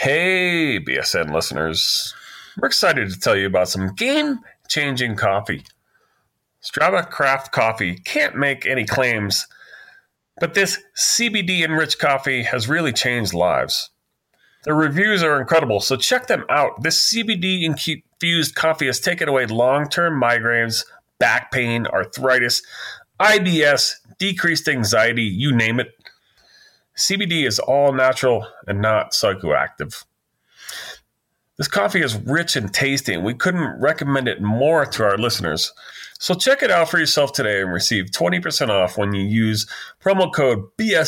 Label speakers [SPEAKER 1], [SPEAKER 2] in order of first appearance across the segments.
[SPEAKER 1] Hey, BSN listeners. We're excited to tell you about some game-changing coffee. Strava Craft Coffee can't make any claims, but this CBD-enriched coffee has really changed lives. The reviews are incredible, so check them out. This CBD-infused coffee has taken away long-term migraines, back pain, arthritis, IBS, decreased anxiety, you name it. CBD is all natural and not psychoactive. This coffee is rich and tasty, and we couldn't recommend it more to our listeners. So check it out for yourself today and receive 20% off when you use promo code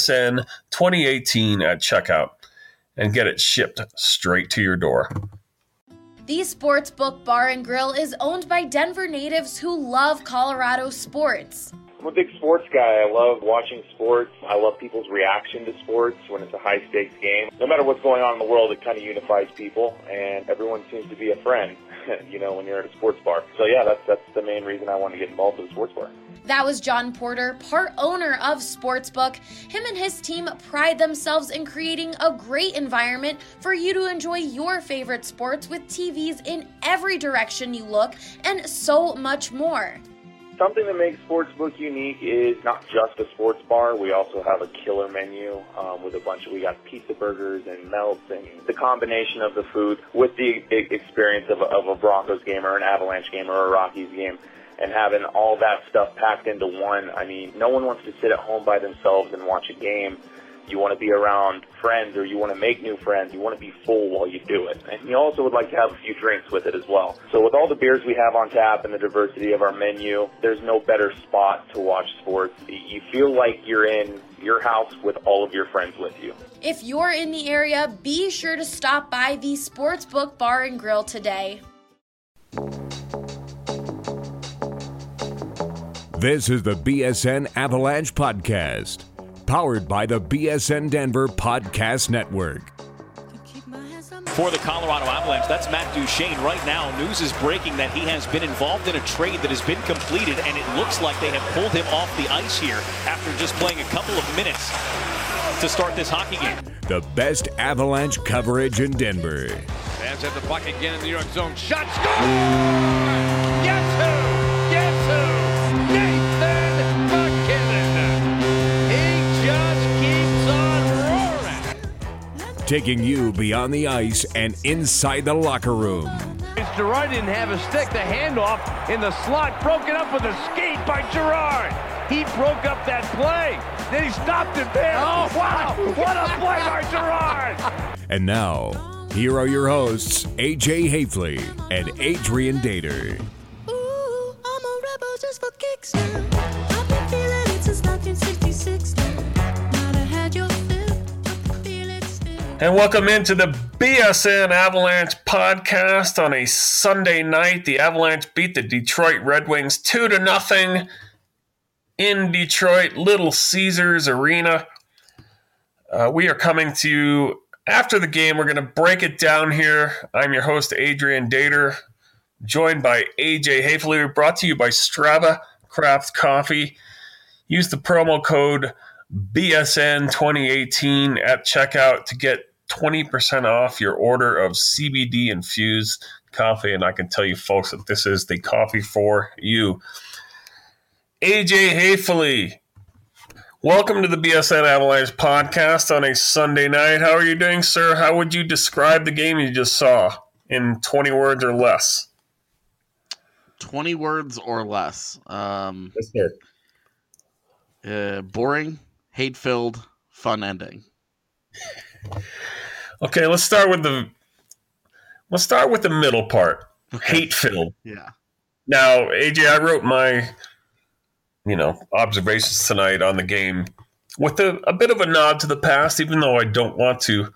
[SPEAKER 1] BSN2018 at checkout and get it shipped straight to your door.
[SPEAKER 2] The Sportsbook Bar and Grill is owned by Denver natives who love Colorado sports.
[SPEAKER 3] I'm a big sports guy. I love watching sports. I love people's reaction to sports when it's a high-stakes game. No matter what's going on in the world, it kind of unifies people, and everyone seems to be a friend, when you're at a sports bar. So, yeah, that's the main reason I want to get involved with a sports bar.
[SPEAKER 2] That was John Porter, part owner of Sportsbook. Him and his team pride themselves in creating a great environment for you to enjoy your favorite sports with TVs in every direction you look and so much more.
[SPEAKER 3] Something that makes Sportsbook unique is not just a sports bar. We also have a killer menu with we got pizza burgers and melts, and the combination of the food with the experience of a Broncos game or an Avalanche game or a Rockies game, and having all that stuff packed into one. I mean, no one wants to sit at home by themselves and watch a game. You want to be around friends, or you want to make new friends. You want to be full while you do it. And you also would like to have a few drinks with it as well. So with all the beers we have on tap and the diversity of our menu, there's no better spot to watch sports. You feel like you're in your house with all of your friends with you.
[SPEAKER 2] If you're in the area, be sure to stop by the Sportsbook Bar and Grill today.
[SPEAKER 4] This is the BSN Avalanche Podcast, powered by the BSN Denver Podcast Network.
[SPEAKER 5] For the Colorado Avalanche, that's Matt Duchene. Right now, news is breaking that he has been involved in a trade that has been completed, and it looks like they have pulled him off the ice here after just playing a couple of minutes to start this hockey game.
[SPEAKER 4] The best Avalanche coverage in Denver.
[SPEAKER 6] Fans at the puck again in the New York zone. Shot, score! Guess who? Nathan MacKinnon. He just keeps on roaring.
[SPEAKER 4] Taking you beyond the ice and inside the locker room.
[SPEAKER 6] Girard didn't have a stick. The handoff in the slot, broken up with a skate by Girard. He broke up that play. Then he stopped it there. Oh, wow. What a play by Girard.
[SPEAKER 4] And now, here are your hosts, AJ Hafley and Adrian Dater.
[SPEAKER 7] Ooh, I'm a rebel just for kicks now. I've been feeling it since 1966 now. Might have had your fill, but feel it still.
[SPEAKER 1] And welcome into the BSN Avalanche podcast on a Sunday night. The Avalanche beat the Detroit Red Wings 2-0 in Detroit, Little Caesars Arena. We are coming to you after the game. We're going to break it down here. I'm your host, Adrian Dater, joined by AJ Hafley. Brought to you by Strava Craft Coffee. Use the promo code BSN2018 at checkout to get 20% off your order of CBD-infused coffee. And I can tell you, folks, that this is the coffee for you. AJ Hafley, welcome to the BSN Avalanche podcast on a Sunday night. How are you doing, sir? How would you describe the game you just saw in 20 words or less?
[SPEAKER 8] 20 words or less.
[SPEAKER 1] Yes, sir.
[SPEAKER 8] Boring, hate-filled, fun ending.
[SPEAKER 1] Okay, let's start with the middle part.
[SPEAKER 8] Okay.
[SPEAKER 1] Hate-filled.
[SPEAKER 8] Yeah.
[SPEAKER 1] Now, AJ, I wrote my observations tonight on the game with a bit of a nod to the past, even though I don't want to.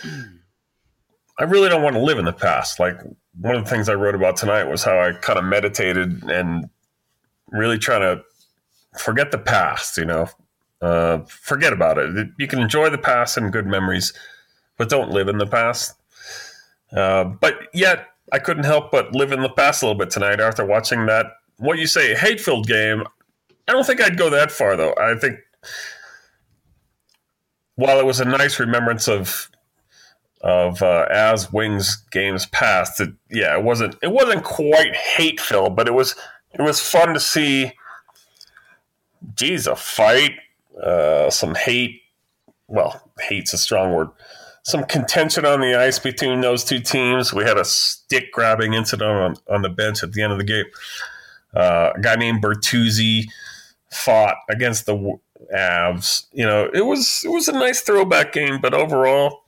[SPEAKER 1] I really don't want to live in the past. Like, one of the things I wrote about tonight was how I kind of meditated and really trying to forget the past, forget about it. You can enjoy the past and good memories, but don't live in the past. But yet, I couldn't help but live in the past a little bit tonight after watching that, what you say, hate-filled game. I don't think I'd go that far, though. I think while it was a nice remembrance of of as Wings games passed. It wasn't quite hate filled, but it was fun to see. Geez, a fight, some hate. Well, hate's a strong word. Some contention on the ice between those two teams. We had a stick grabbing incident on the bench at the end of the game. A guy named Bertuzzi fought against the Avs. It was a nice throwback game, but overall,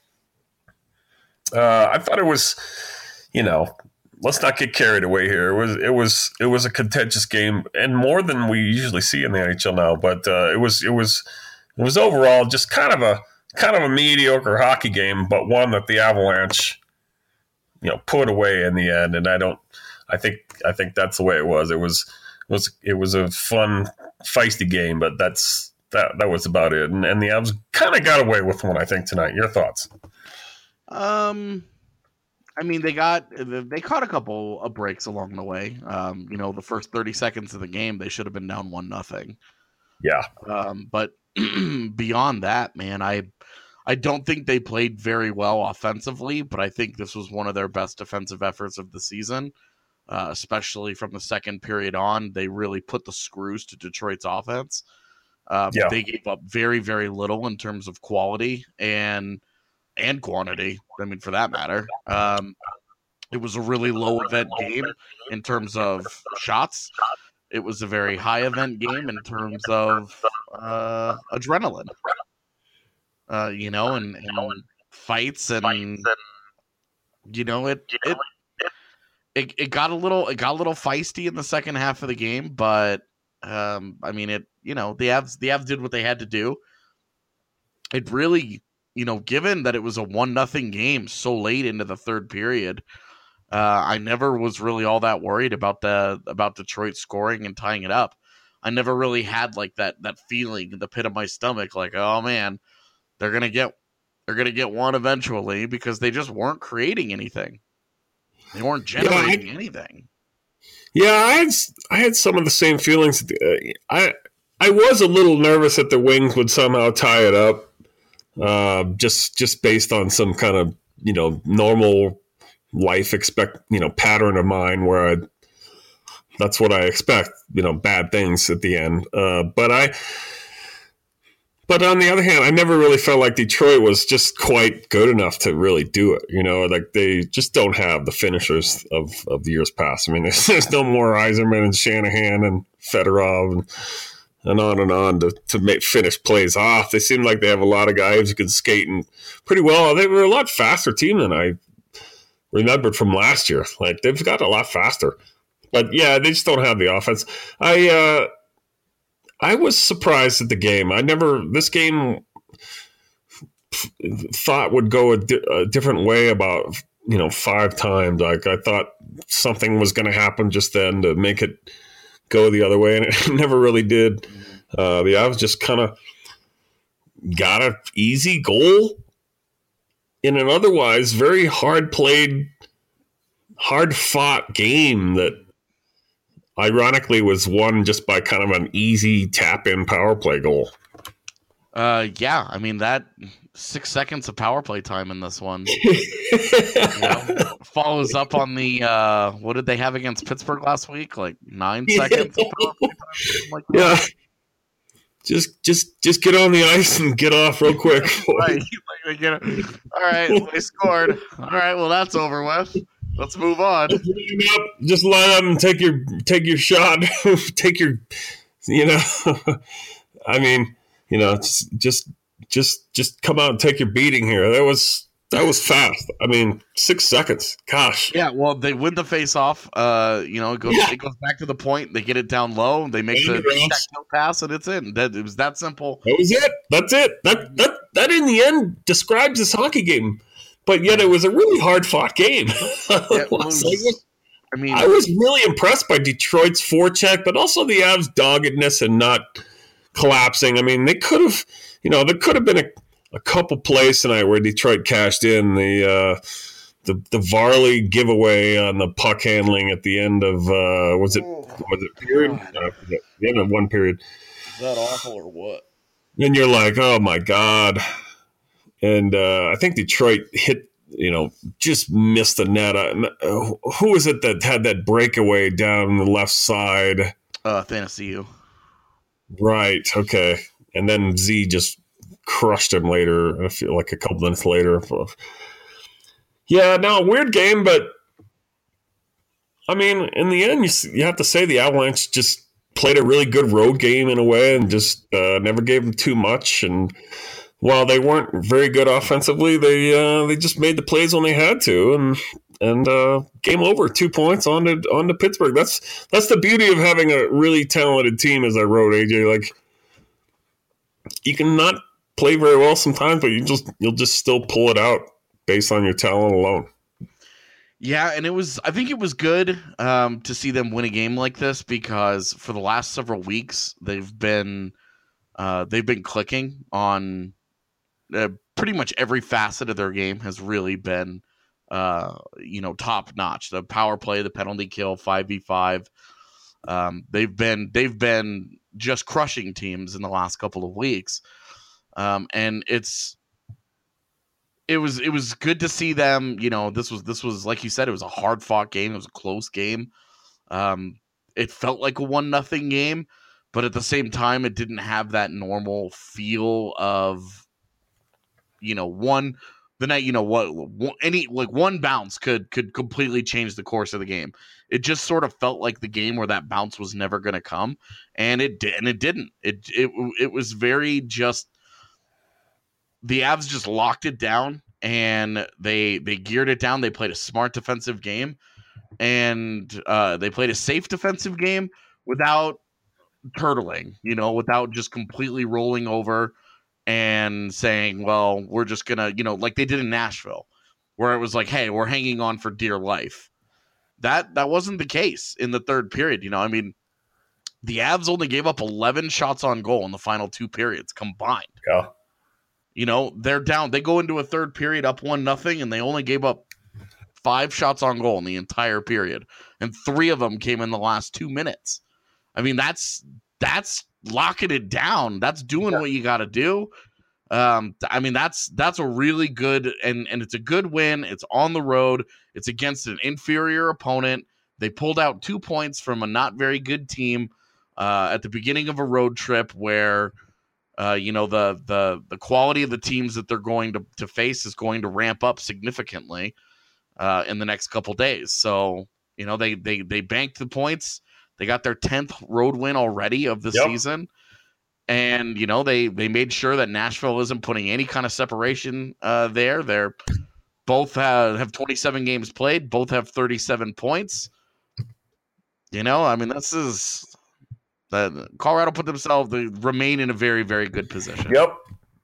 [SPEAKER 1] I thought it was, let's not get carried away here. It was a contentious game, and more than we usually see in the NHL now. But it was overall just kind of a mediocre hockey game, but one that the Avalanche, put away in the end. And I think that's the way it was. It was a fun, feisty game, but that was about it. And the Avs kind of got away with one, I think, tonight. Your thoughts?
[SPEAKER 8] I mean, they caught a couple of breaks along the way. The first 30 seconds of the game, they should have been down 1-0.
[SPEAKER 1] Yeah.
[SPEAKER 8] But beyond that, man, I don't think they played very well offensively, but I think this was one of their best defensive efforts of the season, especially from the second period on. They really put the screws to Detroit's offense. They gave up very, very little in terms of quality and quantity. I mean, for that matter, it was a really low event game in terms of shots. It was a very high event game in terms of adrenaline, and fights, and it got a little feisty in the second half of the game, but the Avs did what they had to do. It really, given that it was a 1-0 game so late into the third period, I never was really all that worried about Detroit scoring and tying it up. I never really had like that feeling in the pit of my stomach, like, oh man, they're gonna get one eventually, because they just weren't creating anything. They weren't generating anything.
[SPEAKER 1] Yeah, I had some of the same feelings. I was a little nervous that the Wings would somehow tie it up, just based on some kind of normal life pattern of mine where that's what I expect, bad things at the end. But on the other hand, I never really felt like Detroit was just quite good enough to really do it. Like they just don't have the finishers of the years past. I mean, there's no more Yzerman and Shanahan and Fedorov and on to finish plays off. They seem like they have a lot of guys who can skate and pretty well. They were a lot faster team than I remembered from last year. Like they've got a lot faster, but yeah, they just don't have the offense. I was surprised at the game. This game thought would go a different way about 5 times. Like I thought something was going to happen just then to make it go the other way, and it never really did. The Avs just kind of got an easy goal in an otherwise very hard-played, hard-fought game that ironically was won just by kind of an easy tap-in power play goal.
[SPEAKER 8] Yeah, I mean, that 6 seconds of power play time in this one follows up on the what did they have against Pittsburgh last week? Like 9 seconds of power play time? Like
[SPEAKER 1] yeah. Just get on the ice and get off real quick.
[SPEAKER 8] Right. All right, they scored. All right, well that's over with. Let's move on.
[SPEAKER 1] Just line up and take your shot. Take your, I mean, just come out and take your beating here. That was fast. I mean, 6 seconds. Gosh.
[SPEAKER 8] Yeah. Well, they win the face-off. It goes back to the point. They get it down low. They make the pass, and it's in. It was that simple.
[SPEAKER 1] That was it. That's it. That in the end describes this hockey game. But yet it was a really hard-fought game. I was really impressed by Detroit's forecheck, but also the Avs' doggedness and not collapsing. I mean, they could have, there could have been a couple plays tonight where Detroit cashed in. The Varley giveaway on the puck handling at the end of was it period? The end of one period.
[SPEAKER 8] Is that awful or what?
[SPEAKER 1] Then you're like, oh my God. And I think Detroit hit just missed the net. Who was it that had that breakaway down the left side?
[SPEAKER 8] Thanasiu.
[SPEAKER 1] Right. Okay. And then Z just crushed him later. I feel like a couple minutes later. Yeah. No, weird game, but I mean, in the end, you have to say the Avalanche just played a really good road game in a way, and just never gave them too much. And while they weren't very good offensively, they just made the plays when they had to, and game over. 2 points on to Pittsburgh. That's the beauty of having a really talented team, as I wrote, AJ. Like, you can not play very well sometimes, but you'll just still pull it out based on your talent alone.
[SPEAKER 8] Yeah, and I think it was good to see them win a game like this, because for the last several weeks they've been clicking on pretty much every facet of their game. Has really been top notch. The power play, the penalty kill, 5v5. They've been just crushing teams in the last couple of weeks, and it was good to see them. This was like you said, it was a hard fought game. It was a close game. It felt like a 1-0 game, but at the same time, it didn't have that normal feel of, one bounce could completely change the course of the game. It just sort of felt like the game where that bounce was never going to come, and it didn't. It was very just. The Avs just locked it down, and they geared it down. They played a smart defensive game, and they played a safe defensive game without turtling, without just completely rolling over and saying, well, we're just going to, like they did in Nashville, where it was like, hey, we're hanging on for dear life. That wasn't the case in the third period. I mean, the Avs only gave up 11 shots on goal in the final 2 periods combined.
[SPEAKER 1] Yeah.
[SPEAKER 8] They're down. They go into a third period up 1-0, and they only gave up 5 shots on goal in the entire period, and 3 of them came in the last 2 minutes. I mean, that's locking it down. That's doing what you got to do. I mean, that's a really good, and it's a good win. It's on the road. It's against an inferior opponent. They pulled out 2 points from a not very good team at the beginning of a road trip where. The quality of the teams that they're going to face is going to ramp up significantly in the next couple days. So, they banked the points. They got their 10th road win already of the season. And, they made sure that Nashville isn't putting any kind of separation there. They're both have 27 games played. Both have 37 points. I mean, this is... Colorado they remain in a very, very good position.
[SPEAKER 1] Yep.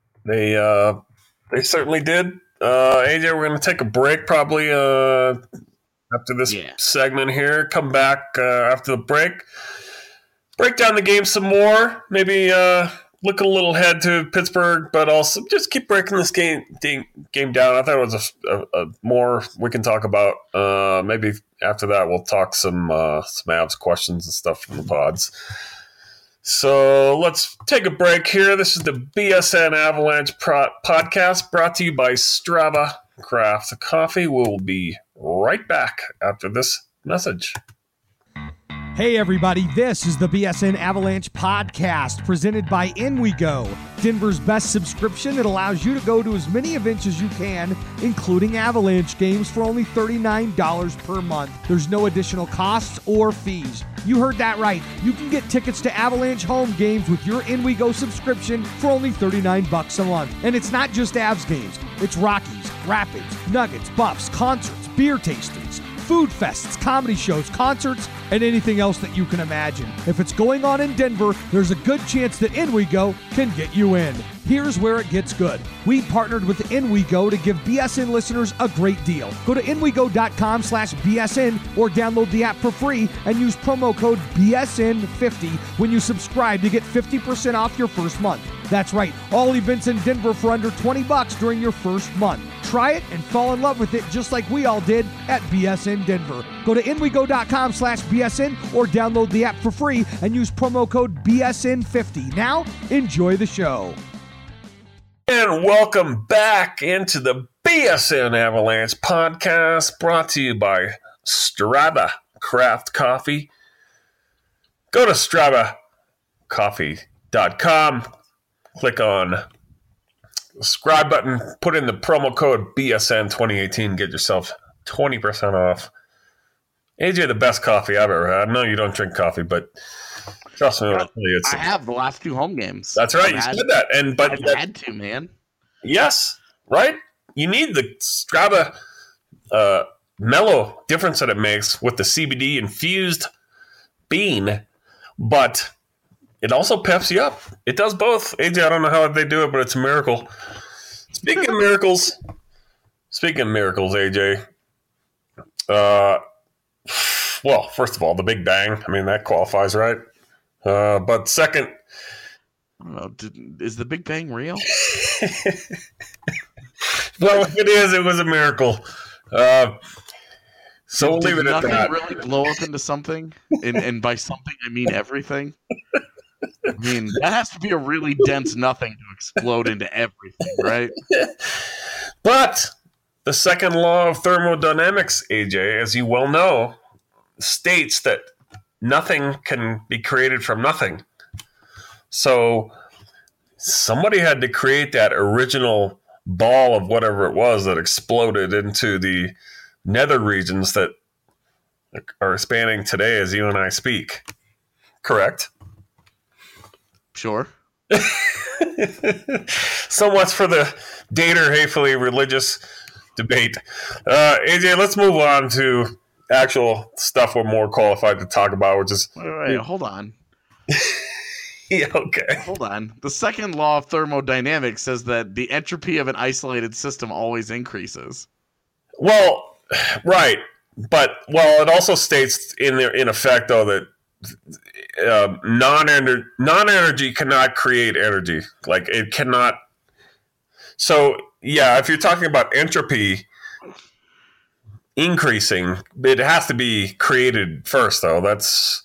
[SPEAKER 1] They certainly did. AJ, we're going to take a break probably after this segment here. Come back after the break. Break down the game some more. Maybe look a little ahead to Pittsburgh, but also just keep breaking this game down. I thought it was a more we can talk about. Maybe after that we'll talk some Avs questions and stuff from the pods. So let's take a break here. This is the BSN Avalanche podcast brought to you by Strava Craft Coffee. We'll be right back after this message.
[SPEAKER 9] Hey everybody, this is the BSN Avalanche podcast presented by In We Go, Denver's best subscription that allows you to go to as many events as you can, including Avalanche games for only $39 per month. There's no additional costs or fees. You heard that right. You can get tickets to Avalanche home games with your In We Go subscription for only $39 a month. And it's not just Avs games. It's Rockies, Rapids, Nuggets, Buffs, concerts, beer tastings, food fests, comedy shows, concerts, and anything else that you can imagine. If it's going on in Denver, there's a good chance that In We Go can get you in. Here's where it gets good. We partnered with In We Go to give BSN listeners a great deal. Go to inwego.com/BSN or download the app for free and use promo code BSN50 when you subscribe to get 50% off your first month. That's right, all events in Denver for under $20 during your first month. Try it and fall in love with it just like we all did at BSN Denver. Go to inwego.com/BSN or download the app for free and use promo code BSN50. Now, enjoy the show.
[SPEAKER 1] And welcome back into the BSN Avalanche podcast brought to you by Strava Craft Coffee. Go to StravaCoffee.com, click on the subscribe button, put in the promo code BSN2018, get yourself 20% off. AJ, the best coffee I've ever had. I know you don't drink coffee, but trust me when I tell you,
[SPEAKER 8] I have the last 2 home games.
[SPEAKER 1] That's right. You said that,
[SPEAKER 8] I've had to, man.
[SPEAKER 1] Yes, right. You need the Strava mellow difference that it makes with the CBD infused bean, but it also peps you up. It does both. AJ, I don't know how they do it, but it's a miracle. Speaking of miracles, AJ. Well, first of all, the Big Bang. I mean, that qualifies, right? But second,
[SPEAKER 8] I don't know. Is the Big Bang real?
[SPEAKER 1] Well, if it is, it was a miracle. So we'll leave it at that.
[SPEAKER 8] Nothing really blow up into something, and by something I mean everything. I mean, that has to be a really dense nothing to explode into everything, right?
[SPEAKER 1] But the second law of thermodynamics, AJ, as you well know, states that nothing can be created from nothing. So somebody had to create that original ball of whatever it was that exploded into the nether regions that are spanning today as you and I speak. Correct?
[SPEAKER 8] Sure.
[SPEAKER 1] So much for the Dater hatefully religious debate. AJ, let's move on to actual stuff we're more qualified to talk about, which is...
[SPEAKER 8] Wait, hold on.
[SPEAKER 1] Yeah, okay.
[SPEAKER 8] Hold on. The second law of thermodynamics says that the entropy of an isolated system always increases.
[SPEAKER 1] Well, right. But, it also states in effect, though, that non-energy cannot create energy. Like, it cannot... So, yeah, if you're talking about entropy increasing, it has to be created first, though. That's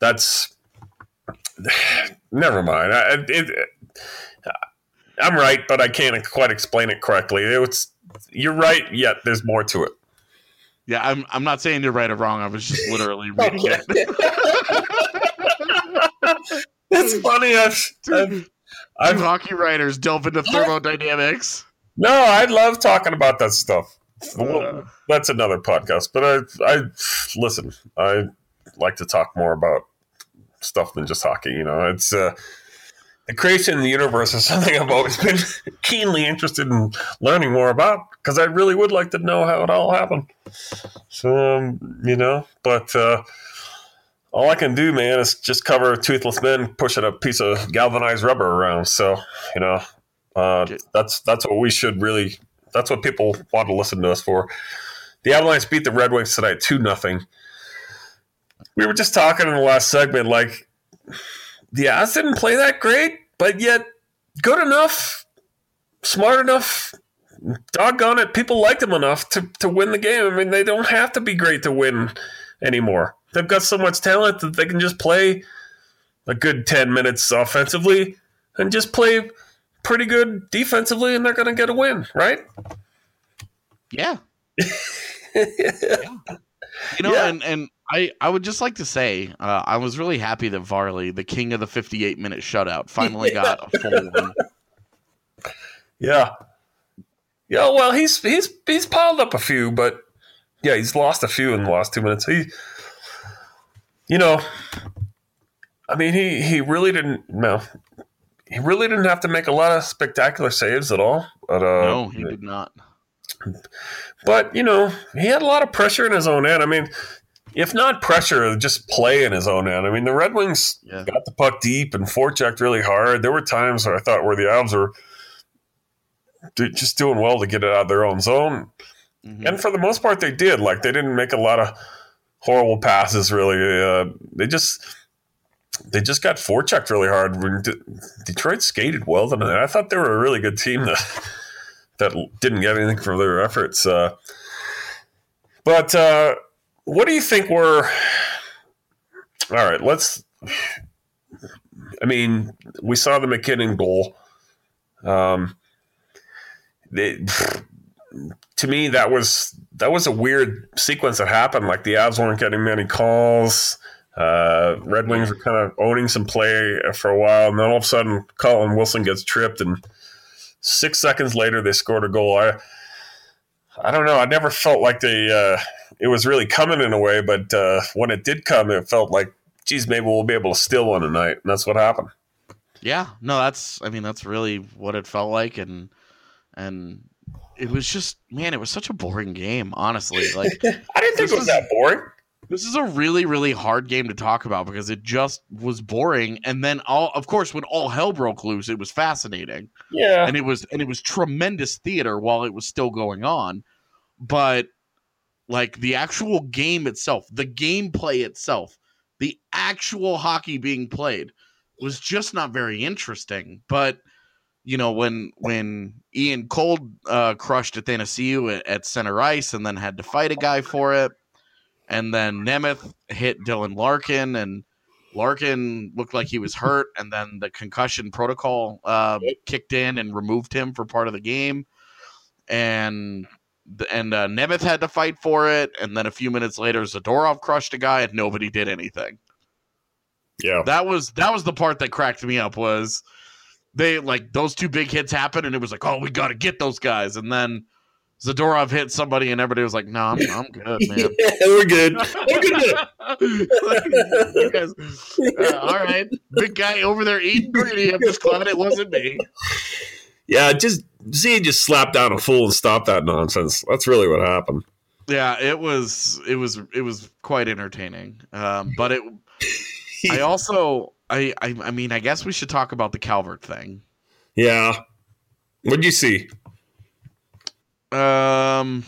[SPEAKER 1] never mind. I'm right, but I can't quite explain it correctly. You're right, yet there's more to it.
[SPEAKER 8] Yeah, I'm not saying you're right or wrong. I was just literally reading it.
[SPEAKER 1] It's funny. I've
[SPEAKER 8] hockey writers delve into thermodynamics.
[SPEAKER 1] No, I love talking about that stuff. That's another podcast. But I listen. I like to talk more about stuff than just hockey. You know, it's the creation of the universe is something I've always been keenly interested in learning more about because I really would like to know how it all happened. So but all I can do, man, is just cover toothless men pushing a piece of galvanized rubber around. So that's what we should really. That's what people want to listen to us for. The Avalanche beat the Red Wings tonight 2-0. We were just talking in the last segment, like, the Avs didn't play that great, but yet good enough, smart enough, doggone it, people liked them enough to win the game. I mean, they don't have to be great to win anymore. They've got so much talent that they can just play a good 10 minutes offensively and just play pretty good defensively, and they're going to get a win, right?
[SPEAKER 8] Yeah. And I would just like to say I was really happy that Varley, the king of the 58-minute shutout, finally got a full one.
[SPEAKER 1] Yeah. Yeah, well, he's piled up a few, but yeah, he's lost a few in the last 2 minutes. He really didn't. No, he really didn't have to make a lot of spectacular saves at all. But,
[SPEAKER 8] no, he did not.
[SPEAKER 1] But, he had a lot of pressure in his own end. I mean, if not pressure, just play in his own end. I mean, the Red Wings got the puck deep and forechecked really hard. There were times where I thought where the Avs were just doing well to get it out of their own zone. Mm-hmm. And for the most part, they did. Like, they didn't make a lot of horrible passes, really. They just got forechecked really hard. Detroit skated well tonight. I thought they were a really good team that didn't get anything for their efforts. But what do you think were... All right, we saw the McKinnon goal. to me, that was a weird sequence that happened. Like the Avs weren't getting many calls. Red Wings were kind of owning some play for a while, and then all of a sudden, Colin Wilson gets tripped, and 6 seconds later, they scored a goal. I don't know. I never felt like it was really coming in a way, but when it did come, it felt like, geez, maybe we'll be able to steal one tonight, and that's what happened.
[SPEAKER 8] Yeah, no, that's really what it felt like, and it was just, man, it was such a boring game, honestly. Like,
[SPEAKER 1] I didn't think it was that boring.
[SPEAKER 8] This is a really, really hard game to talk about because it just was boring. And then of course, when all hell broke loose, it was fascinating.
[SPEAKER 1] Yeah.
[SPEAKER 8] And it was tremendous theater while it was still going on. But like the actual game itself, the gameplay itself, the actual hockey being played was just not very interesting. But you know, when Ian Cole crushed Athanasiou at center ice and then had to fight a guy for it, and then Nemeth hit Dylan Larkin, and Larkin looked like he was hurt, and then the concussion protocol kicked in and removed him for part of the game, and Nemeth had to fight for it, and then a few minutes later Zadorov crushed a guy and nobody did anything.
[SPEAKER 1] Yeah,
[SPEAKER 8] that was the part that cracked me up. Was they like those two big hits happened and it was like, oh, we got to get those guys, and then Zadorov hit somebody and everybody was like, no, I'm good, man.
[SPEAKER 1] Yeah, we're good.
[SPEAKER 8] You guys, all right, big guy over there eating greedy. I'm just glad it wasn't me.
[SPEAKER 1] Yeah, just slapped down a fool and stopped that nonsense. That's really what happened.
[SPEAKER 8] Yeah, it was quite entertaining. But it, I mean, I guess we should talk about the Calvert thing.
[SPEAKER 1] Yeah. What'd you see?
[SPEAKER 8] Did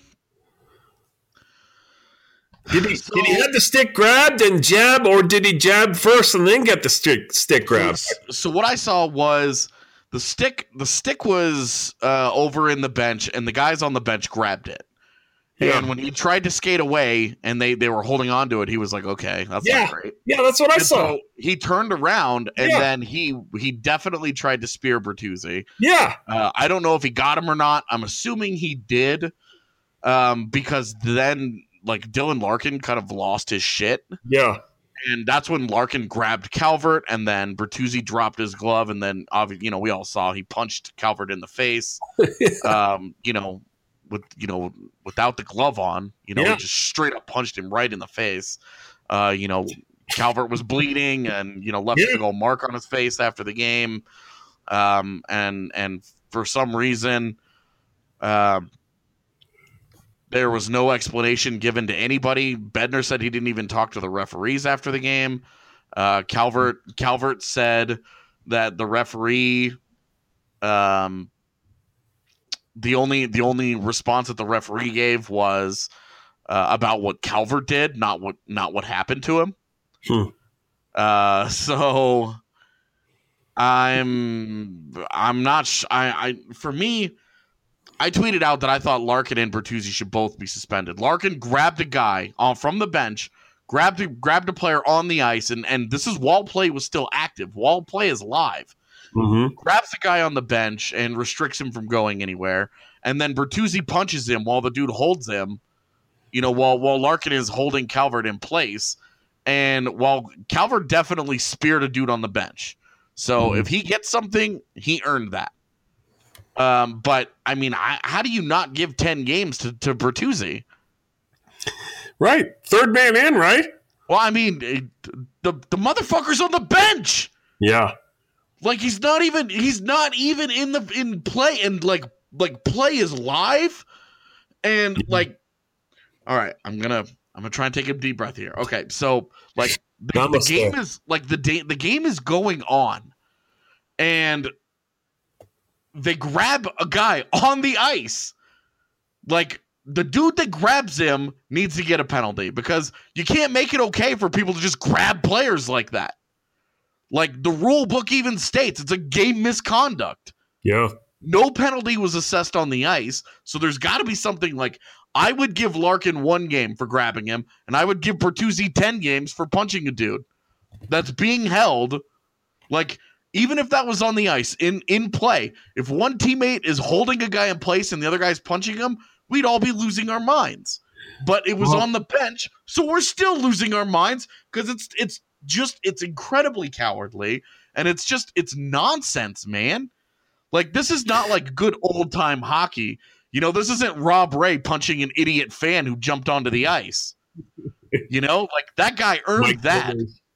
[SPEAKER 1] he have the stick grabbed and jab, or did he jab first and then get the stick grabbed?
[SPEAKER 8] So what I saw was the stick was over in the bench, and the guys on the bench grabbed it. Yeah. And when he tried to skate away and they were holding on to it, he was like, okay, that's not great.
[SPEAKER 1] Yeah, that's what I saw.
[SPEAKER 8] So he turned around and then he definitely tried to spear Bertuzzi.
[SPEAKER 1] Yeah.
[SPEAKER 8] I don't know if he got him or not. I'm assuming he did, because then like Dylan Larkin kind of lost his shit.
[SPEAKER 1] Yeah.
[SPEAKER 8] And that's when Larkin grabbed Calvert, and then Bertuzzi dropped his glove, and then we all saw he punched Calvert in the face. Without the glove on, he just straight up punched him right in the face. Calvert was bleeding and, left a big old mark on his face after the game. And for some reason, there was no explanation given to anybody. Bednar said he didn't even talk to the referees after the game. Calvert said that the referee, the only response that the referee gave was about what Calvert did, not what happened to him. So I'm not. For me, I tweeted out that I thought Larkin and Bertuzzi should both be suspended. Larkin grabbed a guy from the bench, grabbed a player on the ice, and this is while play was still active. While play is live.
[SPEAKER 1] Mm-hmm.
[SPEAKER 8] Grabs the guy on the bench and restricts him from going anywhere. And then Bertuzzi punches him while the dude holds him, while Larkin is holding Calvert in place. And while Calvert definitely speared a dude on the bench. So if he gets something, he earned that. But, I mean, how do you not give 10 games to Bertuzzi?
[SPEAKER 1] Right. Third man in, right?
[SPEAKER 8] Well, I mean, the motherfucker's on the bench.
[SPEAKER 1] Yeah.
[SPEAKER 8] Like he's not even in play, and like play is live, and like, all right, I'm gonna try and take a deep breath here. Okay, so like the game is like the game is going on, and they grab a guy on the ice. Like the dude that grabs him needs to get a penalty because you can't make it okay for people to just grab players like that. Like, the rule book even states it's a game misconduct.
[SPEAKER 1] Yeah.
[SPEAKER 8] No penalty was assessed on the ice, so there's got to be something like, I would give Larkin 1 game for grabbing him, and I would give Bertuzzi 10 games for punching a dude that's being held. Like, even if that was on the ice in play, if one teammate is holding a guy in place and the other guy's punching him, we'd all be losing our minds. But it was on the bench, so we're still losing our minds because it's incredibly cowardly, and it's nonsense, man. Like, this is not like good old time hockey. You know, this isn't Rob Ray punching an idiot fan who jumped onto the ice. You know, like, that guy earned that.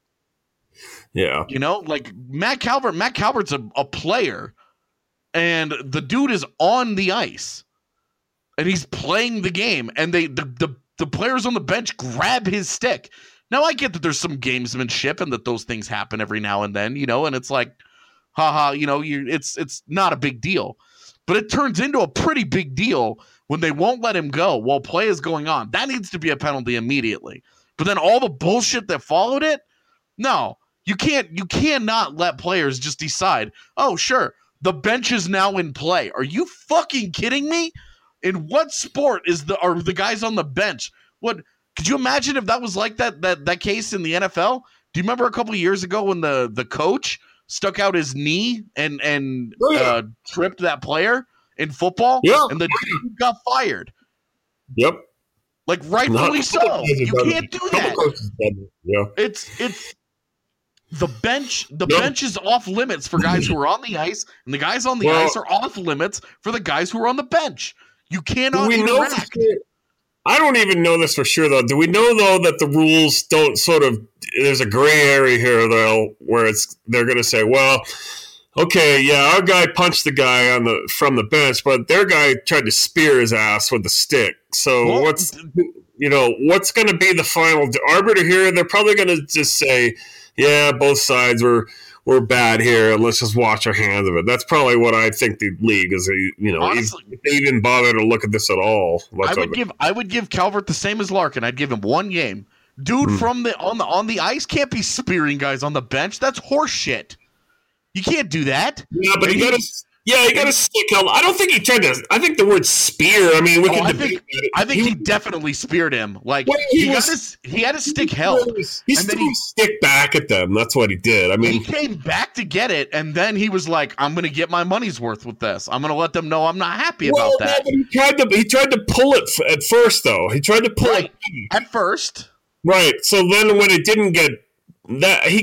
[SPEAKER 1] Yeah.
[SPEAKER 8] You know, like Matt Calvert's a player, and the dude is on the ice and he's playing the game, and the players on the bench grab his stick. Now, I get that there's some gamesmanship and that those things happen every now and then, you know, and it's like, haha, you know, it's not a big deal. But it turns into a pretty big deal when they won't let him go while play is going on. That needs to be a penalty immediately. But then all the bullshit that followed it, no, you cannot let players just decide, oh, sure, the bench is now in play. Are you fucking kidding me? In what sport are the guys on the bench? What could you imagine if that was like that case in the NFL? Do you remember a couple of years ago when the coach stuck out his knee and tripped that player in football?
[SPEAKER 1] Yeah.
[SPEAKER 8] And the dude got fired.
[SPEAKER 1] Yep.
[SPEAKER 8] Like, rightfully so. You can't do that.
[SPEAKER 1] Yeah.
[SPEAKER 8] It's the bench. The bench is off limits for guys who are on the ice, and the guys on the ice are off limits for the guys who are on the bench. You cannot interact.
[SPEAKER 1] I don't even know this for sure, though. Do we know, though, that the rules don't sort of – there's a gray area here, though, where they're going to say, well, okay, yeah, our guy punched the guy from the bench, but their guy tried to spear his ass with a stick. So what's going to be the final arbiter here? They're probably going to just say, yeah, both sides were bad here, and let's just wash our hands of it. That's probably what I think the league is. Honestly, if they even bother to look at this at all.
[SPEAKER 8] I would give Calvert the same as Larkin. I'd give him one game. Dude from on the ice can't be spearing guys on the bench. That's horse shit. You can't do that.
[SPEAKER 1] Yeah, but he got a stick held. I don't think he tried to. I think the word spear. I mean, we can debate that.
[SPEAKER 8] I think he definitely speared him. Like he had his stick held.
[SPEAKER 1] He threw his stick back at them. That's what he did. I mean,
[SPEAKER 8] he came back to get it, and then he was like, "I'm going to get my money's worth with this. I'm going to let them know I'm not happy about that."
[SPEAKER 1] He tried to pull it at first, though. He tried to pull it
[SPEAKER 8] at first. Right.
[SPEAKER 1] So then, when it didn't get that, he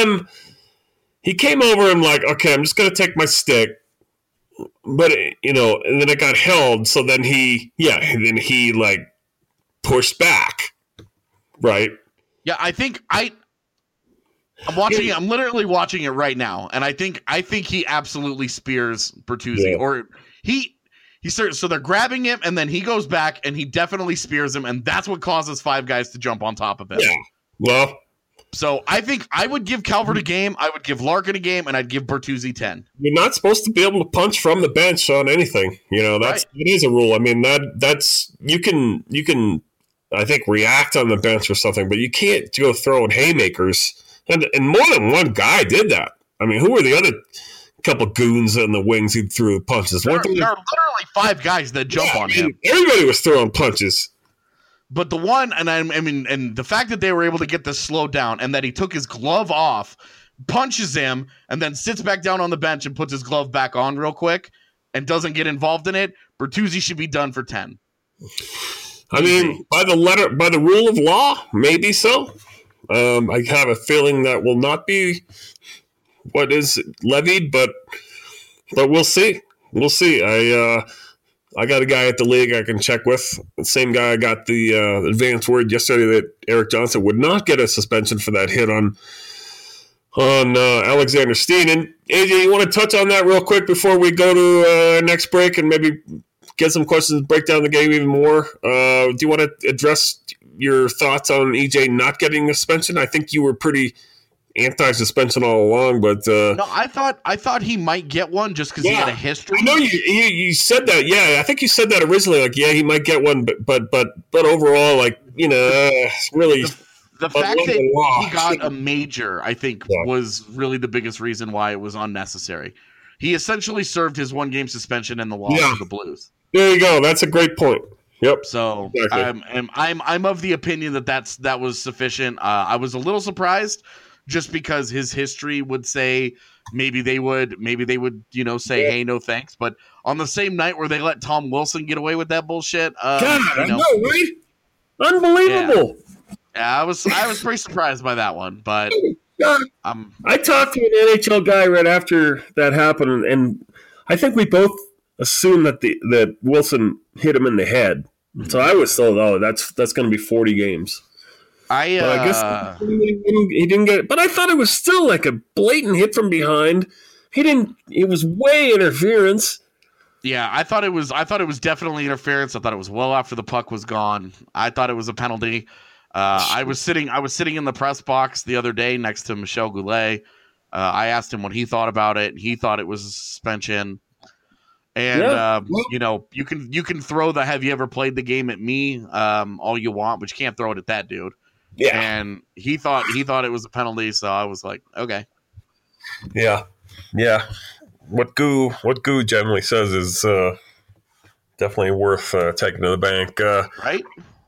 [SPEAKER 1] came over and like, okay, I'm just going to take my stick. But, and then it got held. So then he like pushed back. Right.
[SPEAKER 8] Yeah. I think I'm watching it. I'm literally watching it right now. And I think he absolutely spears Bertuzzi or he starts. So they're grabbing him and then he goes back and he definitely spears him. And that's what causes five guys to jump on top of him.
[SPEAKER 1] Yeah. Well,
[SPEAKER 8] so I think I would give Calvert a game, I would give Larkin a game, and I'd give Bertuzzi 10.
[SPEAKER 1] You're not supposed to be able to punch from the bench on anything. It is a rule. I mean, that's you can I think react on the bench or something, but you can't go throwing haymakers. And more than one guy did that. I mean, who were the other couple goons in the wings who threw punches?
[SPEAKER 8] There are literally five guys that jump on him.
[SPEAKER 1] Everybody was throwing punches.
[SPEAKER 8] But the one, and the fact that they were able to get this slowed down and that he took his glove off, punches him, and then sits back down on the bench and puts his glove back on real quick and doesn't get involved in it, Bertuzzi should be done for 10.
[SPEAKER 1] I mean, by the rule of law, maybe so. I have a feeling that will not be what is levied, but we'll see. We'll see. I got a guy at the league I can check with. The same guy I got the advance word yesterday that Eric Johnson would not get a suspension for that hit on Alexander Steen. And AJ, you want to touch on that real quick before we go to our next break and maybe get some questions, break down the game even more? Do you want to address your thoughts on EJ not getting a suspension? I think you were pretty anti-suspension all along, but
[SPEAKER 8] no, I thought he might get one just because he had a history.
[SPEAKER 1] I know you said that. Yeah, I think you said that originally. Like, yeah, he might get one, but overall, like, really
[SPEAKER 8] the fact that he got a major, I think, was really the biggest reason why it was unnecessary. He essentially served his 1-game suspension in the loss of the Blues.
[SPEAKER 1] There you go. That's a great point. Yep.
[SPEAKER 8] So exactly. I'm of the opinion that was sufficient. I was a little surprised just because his history would say maybe they would, say, hey, no thanks. But on the same night where they let Tom Wilson get away with that bullshit,
[SPEAKER 1] I know, right? Unbelievable.
[SPEAKER 8] Yeah, I was pretty surprised by that one, but
[SPEAKER 1] I talked to an NHL guy right after that happened, and I think we both assumed that Wilson hit him in the head. So I was told, that's going to be 40 games. I guess he didn't get it, but I thought it was still like a blatant hit from behind. It was way interference.
[SPEAKER 8] Yeah, I thought it was definitely interference. I thought it was well after the puck was gone. I thought it was a penalty. I was sitting in the press box the other day next to Michel Goulet. I asked him what he thought about it. He thought it was a suspension. And you can throw the "have you ever played the game" at me all you want, but you can't throw it at that dude.
[SPEAKER 1] Yeah.
[SPEAKER 8] And he thought it was a penalty, so I was like, okay.
[SPEAKER 1] Yeah. What Goo generally says is definitely worth taking to the bank.
[SPEAKER 8] Right?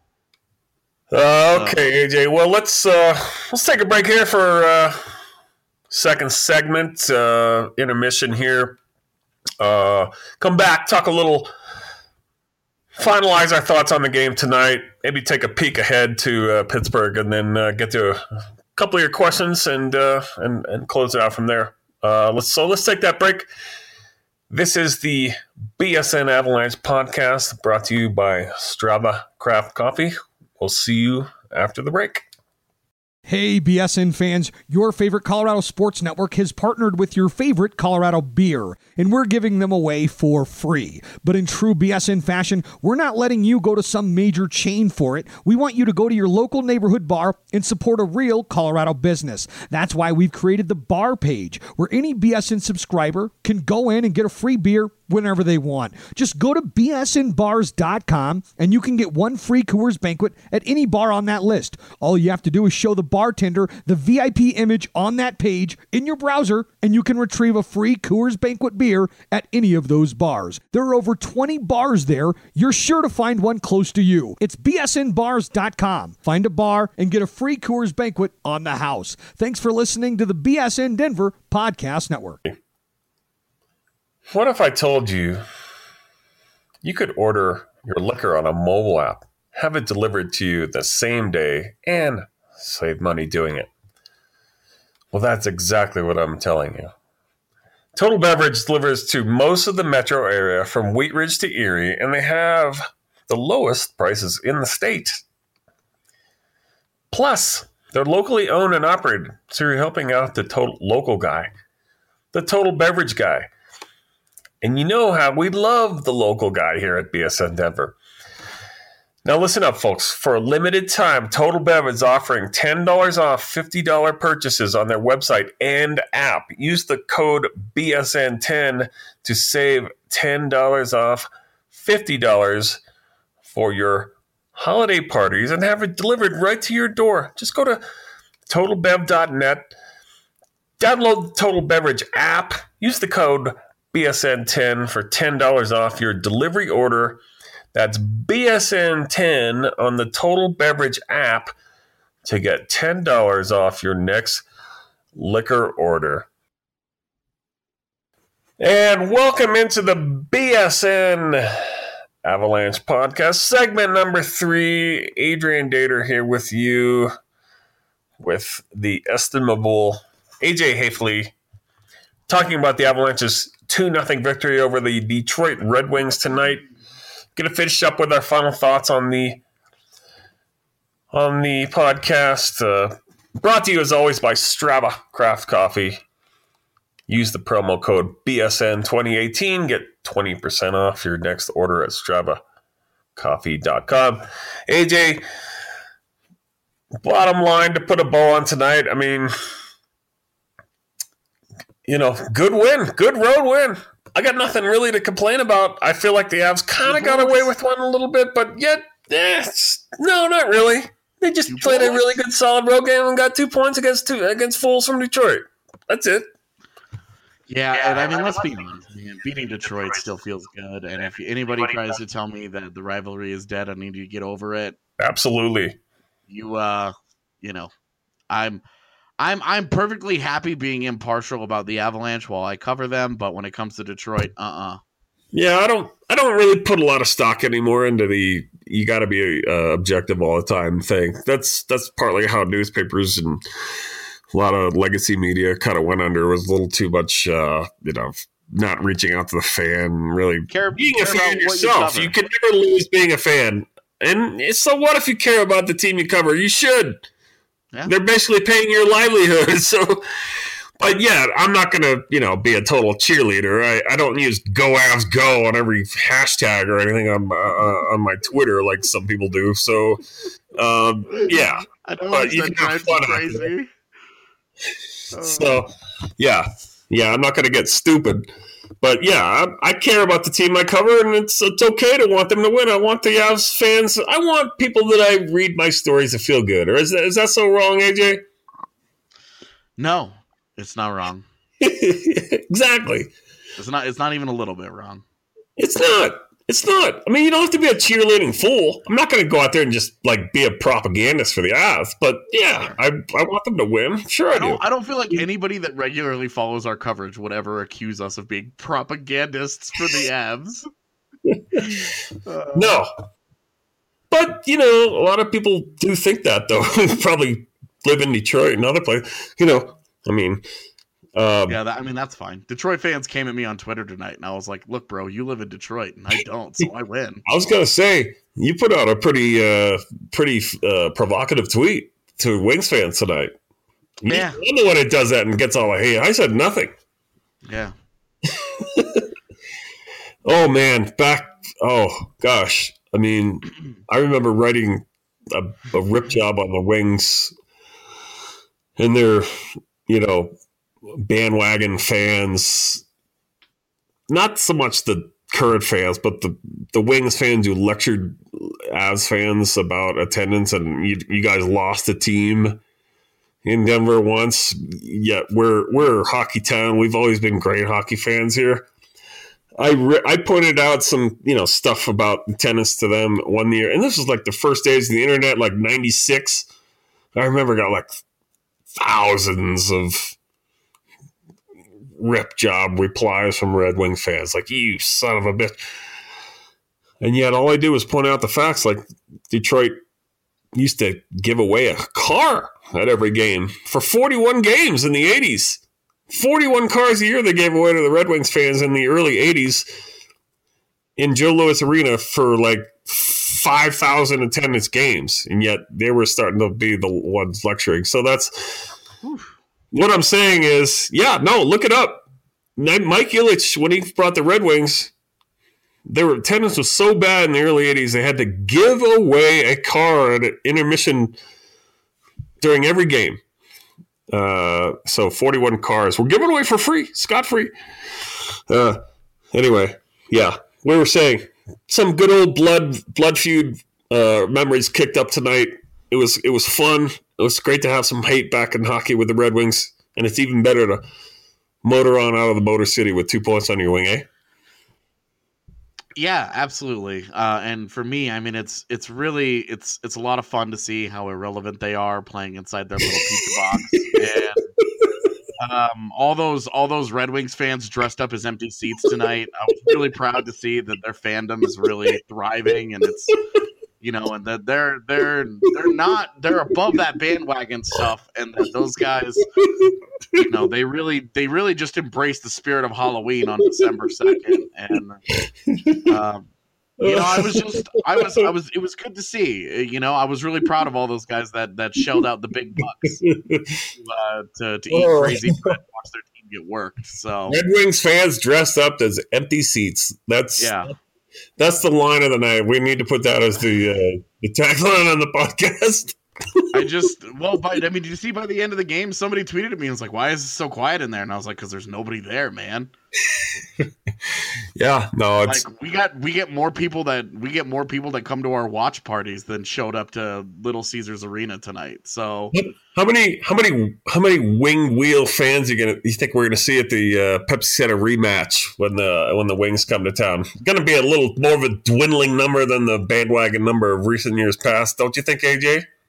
[SPEAKER 1] Okay, AJ. Well, let's take a break here for second segment, intermission here. Come back, talk a little, finalize our thoughts on the game tonight, maybe take a peek ahead to Pittsburgh, and then get to a couple of your questions and close it out from there. Let's take that break. This is the BSN Avalanche podcast brought to you by Strava Craft Coffee. We'll see you after the break.
[SPEAKER 9] Hey, BSN fans, your favorite Colorado Sports Network has partnered with your favorite Colorado beer, and we're giving them away for free. But in true BSN fashion, we're not letting you go to some major chain for it. We want you to go to your local neighborhood bar and support a real Colorado business. That's why we've created the bar page, where any BSN subscriber can go in and get a free beer whenever they want. Just go to bsnbars.com and you can get one free Coors Banquet at any bar on that list. All you have to do is show the bartender the VIP image on that page in your browser, and you can retrieve a free Coors Banquet beer at any of those bars. There are over 20 bars there. You're sure to find one close to you. It's bsnbars.com. Find a bar and get a free Coors Banquet on the house. Thanks for listening to the BSN Denver Podcast Network.
[SPEAKER 1] What if I told you could order your liquor on a mobile app, have it delivered to you the same day, and save money doing it? Well, that's exactly what I'm telling you. Total Beverage delivers to most of the metro area from Wheat Ridge to Erie, and they have the lowest prices in the state. Plus, they're locally owned and operated, so you're helping out the total local guy, the Total Beverage guy. And you know how we love the local guy here at BSN Denver. Now listen up, folks. For a limited time, Total Bev is offering $10 off $50 purchases on their website and app. Use the code BSN10 to save $10 off $50 for your holiday parties and have it delivered right to your door. Just go to TotalBev.net, download the Total Beverage app, use the code BSN10 for $10 off your delivery order. That's BSN10 on the Total Beverage app to get $10 off your next liquor order. And welcome into the BSN Avalanche podcast, segment number 3. Adrian Dater here with you with the estimable AJ Hafley, talking about the Avalanche's 2-0 victory over the Detroit Red Wings tonight. Going to finish up with our final thoughts on the podcast. Brought to you as always by Strava Craft Coffee. Use the promo code BSN2018. Get 20% off your next order at StravaCoffee.com. AJ, bottom line to put a bow on tonight. I mean, good win, good road win. I got nothing really to complain about. I feel like the Avs kind of got away with one a little bit, but yet, no, not really. They just played a really good, solid road game and got 2 points against Fools from Detroit. That's it.
[SPEAKER 8] Yeah, and I mean, let's be honest, man. Beating Detroit still feels good, and if anybody tries to tell me that the rivalry is dead, I need you to get over it.
[SPEAKER 1] Absolutely.
[SPEAKER 8] I'm I'm perfectly happy being impartial about the Avalanche while I cover them, but when it comes to Detroit,
[SPEAKER 1] Yeah, I don't really put a lot of stock anymore into the you got to be objective all the time thing. That's partly how newspapers and a lot of legacy media kind of went under. It was a little too much, not reaching out to the fan, really being a fan yourself. You can never lose being a fan. And so what if you care about the team you cover? You should. Yeah. They're basically paying your livelihood. So, but yeah, I'm not going to, be a total cheerleader. I don't use "Go Avs Go" on every hashtag or anything on my Twitter like some people do. So, yeah.
[SPEAKER 8] I don't but you can have fun crazy.
[SPEAKER 1] So, yeah, I'm not going to get stupid. But yeah, I care about the team I cover, and it's okay to want them to win. I want the Avs fans. I want people that I read my stories to feel good. Or is that so wrong, AJ?
[SPEAKER 8] No, it's not wrong.
[SPEAKER 1] Exactly.
[SPEAKER 8] It's not even a little bit wrong.
[SPEAKER 1] It's not. It's not. I mean, you don't have to be a cheerleading fool. I'm not going to go out there and just be a propagandist for the Avs. But yeah, I want them to win. Sure, I do.
[SPEAKER 8] I don't feel like anybody that regularly follows our coverage would ever accuse us of being propagandists for the Avs.
[SPEAKER 1] No. But, a lot of people do think that, though. Probably live in Detroit and other places.
[SPEAKER 8] That's fine. Detroit fans came at me on Twitter tonight, and I was like, look, bro, you live in Detroit, and I don't, so I win.
[SPEAKER 1] I was going to say, you put out a pretty provocative tweet to Wings fans tonight.
[SPEAKER 8] Yeah.
[SPEAKER 1] I'm the one that does that and gets all the hate. I said nothing.
[SPEAKER 8] Yeah.
[SPEAKER 1] Oh, man. Gosh. I mean, I remember writing a rip job on the Wings, and they're, bandwagon fans, not so much the current fans, but the Wings fans who lectured Avs fans about attendance, and you guys lost a team in Denver once. Yet we're a hockey town. We've always been great hockey fans here. I pointed out some stuff about attendance to them one year, and this was like the first days of the internet, like 96. I remember got like thousands of rip job replies from Red Wing fans, like, you son of a bitch. And yet all I do is point out the facts, like Detroit used to give away a car at every game for 41 games in the 80s. 41 cars a year they gave away to the Red Wings fans in the early 80s in Joe Louis Arena for like 5,000 attendance games. And yet they were starting to be the ones lecturing. So that's... What I'm saying is, look it up. Mike Ilitch, when he brought the Red Wings, their attendance was so bad in the early 80s, they had to give away a car at an intermission during every game. So 41 cars were given away for free, scot-free. Anyway, yeah, we were saying some good old blood feud memories kicked up tonight. It was fun. It was great to have some hate back in hockey with the Red Wings, and it's even better to motor on out of the Motor City with 2 points on your wing, eh?
[SPEAKER 8] Yeah, absolutely. And for me, I mean, it's really a lot of fun to see how irrelevant they are playing inside their little pizza box. And all those Red Wings fans dressed up as empty seats tonight. I was really proud to see that their fandom is really thriving, and it's and that they're above that bandwagon stuff, and that those guys, they really just embrace the spirit of Halloween on December 2nd, and it was good to see. I was really proud of all those guys that shelled out the big bucks to eat crazy bread and watch their team get worked. So
[SPEAKER 1] Red Wings fans dressed up as empty seats. That's the line of the night. We need to put that as the tagline on the podcast.
[SPEAKER 8] Did you see by the end of the game, somebody tweeted at me and was like, "Why is it so quiet in there?" And I was like, "Because there's nobody there, man."
[SPEAKER 1] Yeah, no, it's
[SPEAKER 8] like we get more people that come to our watch parties than showed up to Little Caesars Arena tonight. So
[SPEAKER 1] how many wing wheel fans you think we're gonna see at the Pepsi Center rematch when the Wings come to town? Going to be a little more of a dwindling number than the bandwagon number of recent years past, don't you think, AJ?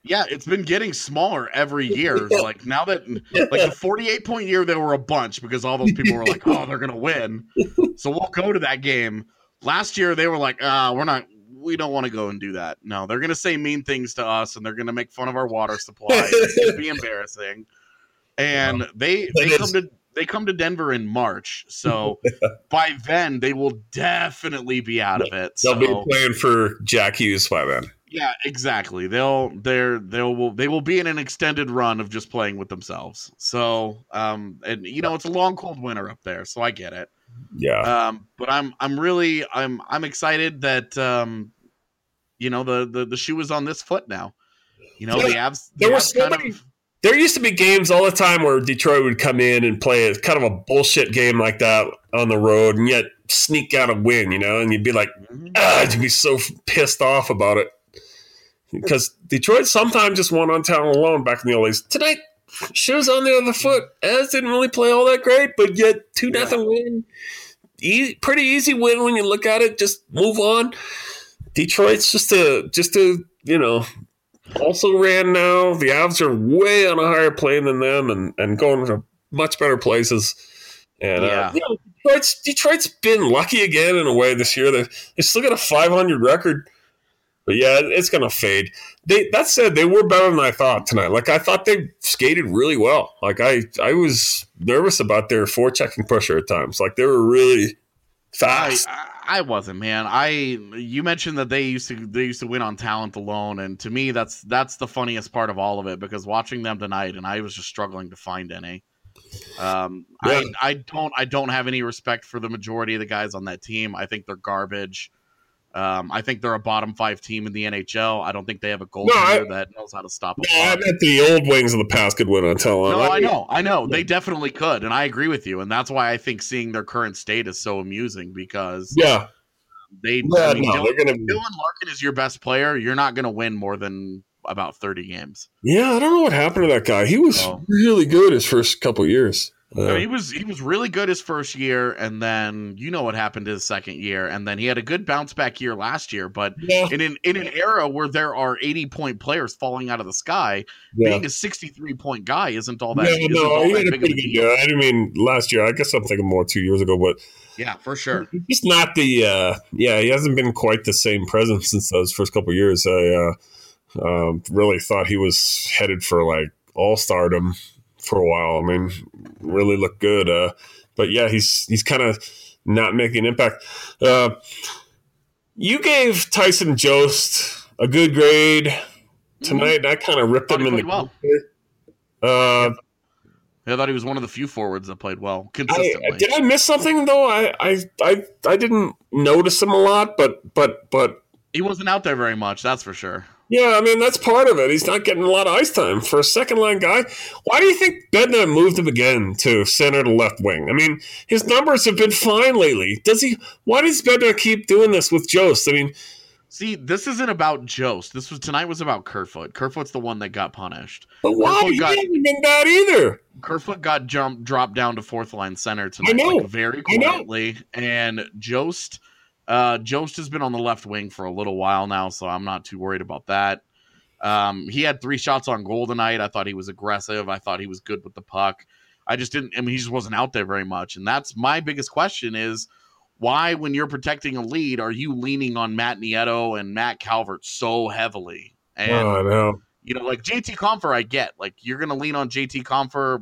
[SPEAKER 8] Yeah, it's been getting smaller every year. Like now that like the 48-point year, there were a bunch because all those people were like, oh, they're gonna win. So we'll go to that game. Last year they were like, we don't want to go and do that. No, they're gonna say mean things to us and they're gonna make fun of our water supply. It's gonna be embarrassing. And they come to Denver in March. So by then they will definitely be out of it.
[SPEAKER 1] They'll be playing for Jack Hughes by then.
[SPEAKER 8] Yeah, exactly. They will be in an extended run of just playing with themselves. So, and it's a long, cold winter up there, so I get it.
[SPEAKER 1] Yeah.
[SPEAKER 8] But I'm excited that the shoe is on this foot now. The Avs.
[SPEAKER 1] There used to be games all the time where Detroit would come in and play a kind of a bullshit game like that on the road, and yet sneak out a win. And you'd be like, you'd be so pissed off about it. Because Detroit sometimes just won on talent alone back in the old days. Tonight, shoes on the other foot. As didn't really play all that great, but yet 2-0 win. Pretty easy win when you look at it. Just move on. Detroit's just also ran now. The Avs are way on a higher plane than them and going to much better places. And Detroit's been lucky again in a way this year. They still got a .500 record. But yeah, it's going to fade. That said, they were better than I thought tonight. Like, I thought they skated really well. Like, I was nervous about their forechecking pressure at times. Like, they were really fast.
[SPEAKER 8] I wasn't, man. You mentioned that they used to win on talent alone, and to me, that's the funniest part of all of it, because watching them tonight, and I was just struggling to find any. I don't have any respect for the majority of the guys on that team. I think they're garbage. I think they're a bottom 5 team in the NHL. I don't think they have a goaltender that knows how to stop a puck.
[SPEAKER 1] I bet the old wings of the past could win on talent.
[SPEAKER 8] No, I know. They definitely could, and I agree with you. And that's why I think seeing their current state is so amusing, because
[SPEAKER 1] Dylan
[SPEAKER 8] Larkin is your best player. You're not going to win more than about 30 games.
[SPEAKER 1] Yeah, I don't know what happened to that guy. He was really good his first couple of years.
[SPEAKER 8] He was really good his first year, and then what happened his second year, and then he had a good bounce back year last year. But in an era where there are 80-point players falling out of the sky, being a 63-point guy isn't all that.
[SPEAKER 1] He had a pretty good year. I didn't mean last year. I guess I'm thinking more 2 years ago, but
[SPEAKER 8] yeah, for sure.
[SPEAKER 1] He's not the he hasn't been quite the same presence since those first couple of years. I really thought he was headed for like all-stardom for a while. I mean, really looked good. But yeah, he's kind of not making an impact. You gave Tyson Jost a good grade tonight, and I kind of ripped him in the
[SPEAKER 8] well. I thought he was one of the few forwards that played well consistently.
[SPEAKER 1] Did I miss something though? I didn't notice him a lot, but
[SPEAKER 8] he wasn't out there very much. That's for sure.
[SPEAKER 1] Yeah, I mean, that's part of it. He's not getting a lot of ice time. For a second-line guy, why do you think Bednar moved him again to center to left wing? I mean, his numbers have been fine lately. Why does Bednar keep doing this with Jost? I mean...
[SPEAKER 8] See, this isn't about Jost. Tonight was about Kerfoot. Kerfoot's the one that got punished.
[SPEAKER 1] But why? He hasn't been bad either.
[SPEAKER 8] Kerfoot got dropped down to fourth-line center tonight, very quietly. And Jost has been on the left wing for a little while now, so I'm not too worried about that. He had 3 shots on goal tonight. I thought he was aggressive. I thought he was good with the puck. He just wasn't out there very much. And that's my biggest question is, why, when you're protecting a lead, are you leaning on Matt Nieto and Matt Calvert so heavily? And,
[SPEAKER 1] I know.
[SPEAKER 8] Like JT Compher, I get. Like, you're going to lean on JT Compher.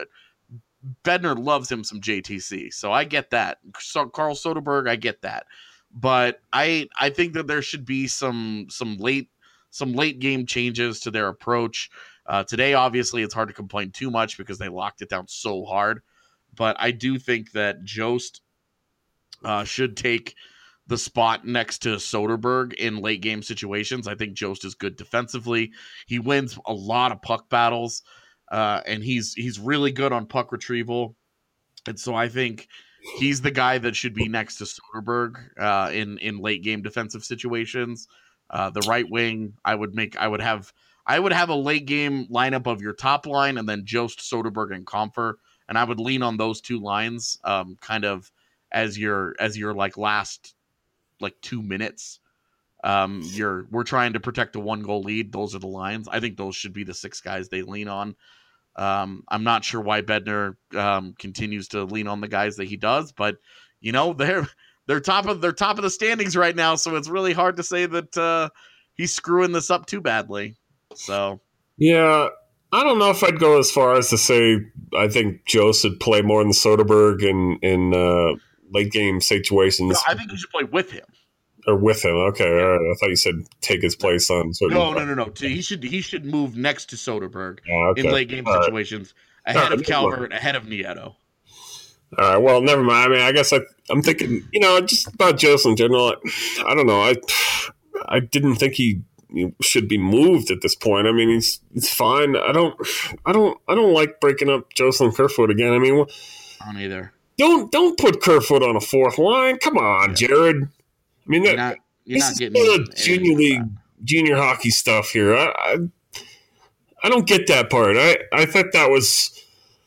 [SPEAKER 8] Bednar loves him some JTC, so I get that. Carl Soderberg, I get that. But I think that there should be some late game changes to their approach. Today, obviously, it's hard to complain too much because they locked it down so hard. But I do think that Jost should take the spot next to Soderberg in late game situations. I think Jost is good defensively. He wins a lot of puck battles, and he's really good on puck retrieval. And so I think he's the guy that should be next to Soderberg in late game defensive situations. The right wing, I would have a late game lineup of your top line and then Jost, Soderberg, and Compher, and I would lean on those 2 lines kind of as your like last like 2 minutes We're trying to protect a 1-goal lead. Those are the lines. I think those should be the 6 guys they lean on. I'm not sure why Bednar continues to lean on the guys that he does, but they're top of the standings right now, so it's really hard to say that he's screwing this up too badly. So
[SPEAKER 1] yeah, I don't know if I'd go as far as to say I think Joe should play more than Soderberg in late game situations.
[SPEAKER 8] No, I think you should play with him.
[SPEAKER 1] Or with him, okay. Yeah. All right. I thought you said take his place on Soderberg.
[SPEAKER 8] No. He should move next to Soderberg
[SPEAKER 1] okay.
[SPEAKER 8] in late game situations, ahead of Calvert, ahead of Nieto.
[SPEAKER 1] All right. Well, never mind. I mean, I guess I'm thinking, just about Joe in general. I don't know. I didn't think he should be moved at this point. I mean, he's fine. I don't like breaking up Jocelyn Kerfoot again. I mean,
[SPEAKER 8] I don't either.
[SPEAKER 1] Don't put Kerfoot on a 4th line. Come on, Jared. I mean,
[SPEAKER 8] you're not getting
[SPEAKER 1] junior hockey stuff here. I don't get that part. I thought that was,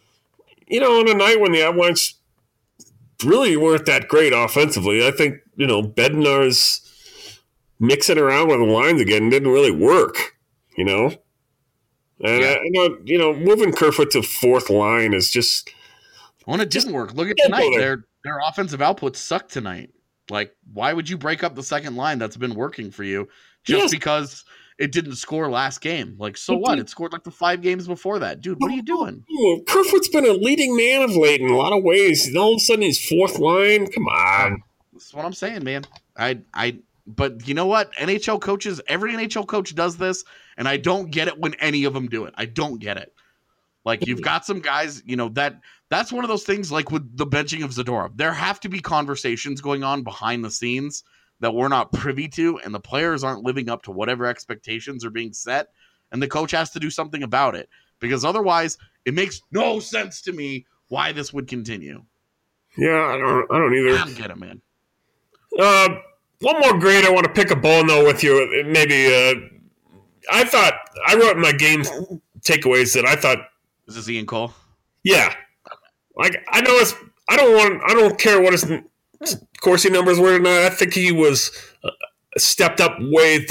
[SPEAKER 1] on a night when the Avalanche really weren't that great offensively. I think, Bednar's mixing around with the lines again didn't really work, And I know, moving Kerfoot to 4th line is just.
[SPEAKER 8] Well, it didn't work. Look at tonight. Their offensive output sucked tonight. Like, why would you break up the second line that's been working for you just because it didn't score last game? Like, so what? It scored like the 5 games before that. Dude, what are you doing?
[SPEAKER 1] Kerfoot's been a leading man of late in a lot of ways. And all of a sudden he's 4th line. Come on.
[SPEAKER 8] That's what I'm saying, man. But you know what? every NHL coach does this, and I don't get it when any of them do it. I don't get it. Like, you've got some guys, that's one of those things like with the benching of Zadorov. There have to be conversations going on behind the scenes that we're not privy to, and the players aren't living up to whatever expectations are being set, and the coach has to do something about it. Because otherwise, it makes no sense to me why this would continue.
[SPEAKER 1] Yeah, I don't either.
[SPEAKER 8] I don't get it, man.
[SPEAKER 1] One more grade I want to pick a bone, though, with you. Maybe I wrote in my game takeaways that I thought.
[SPEAKER 8] Is this Ian Cole?
[SPEAKER 1] Yeah. Like, I know I don't care what his Corsi numbers were tonight. I think he was stepped up way,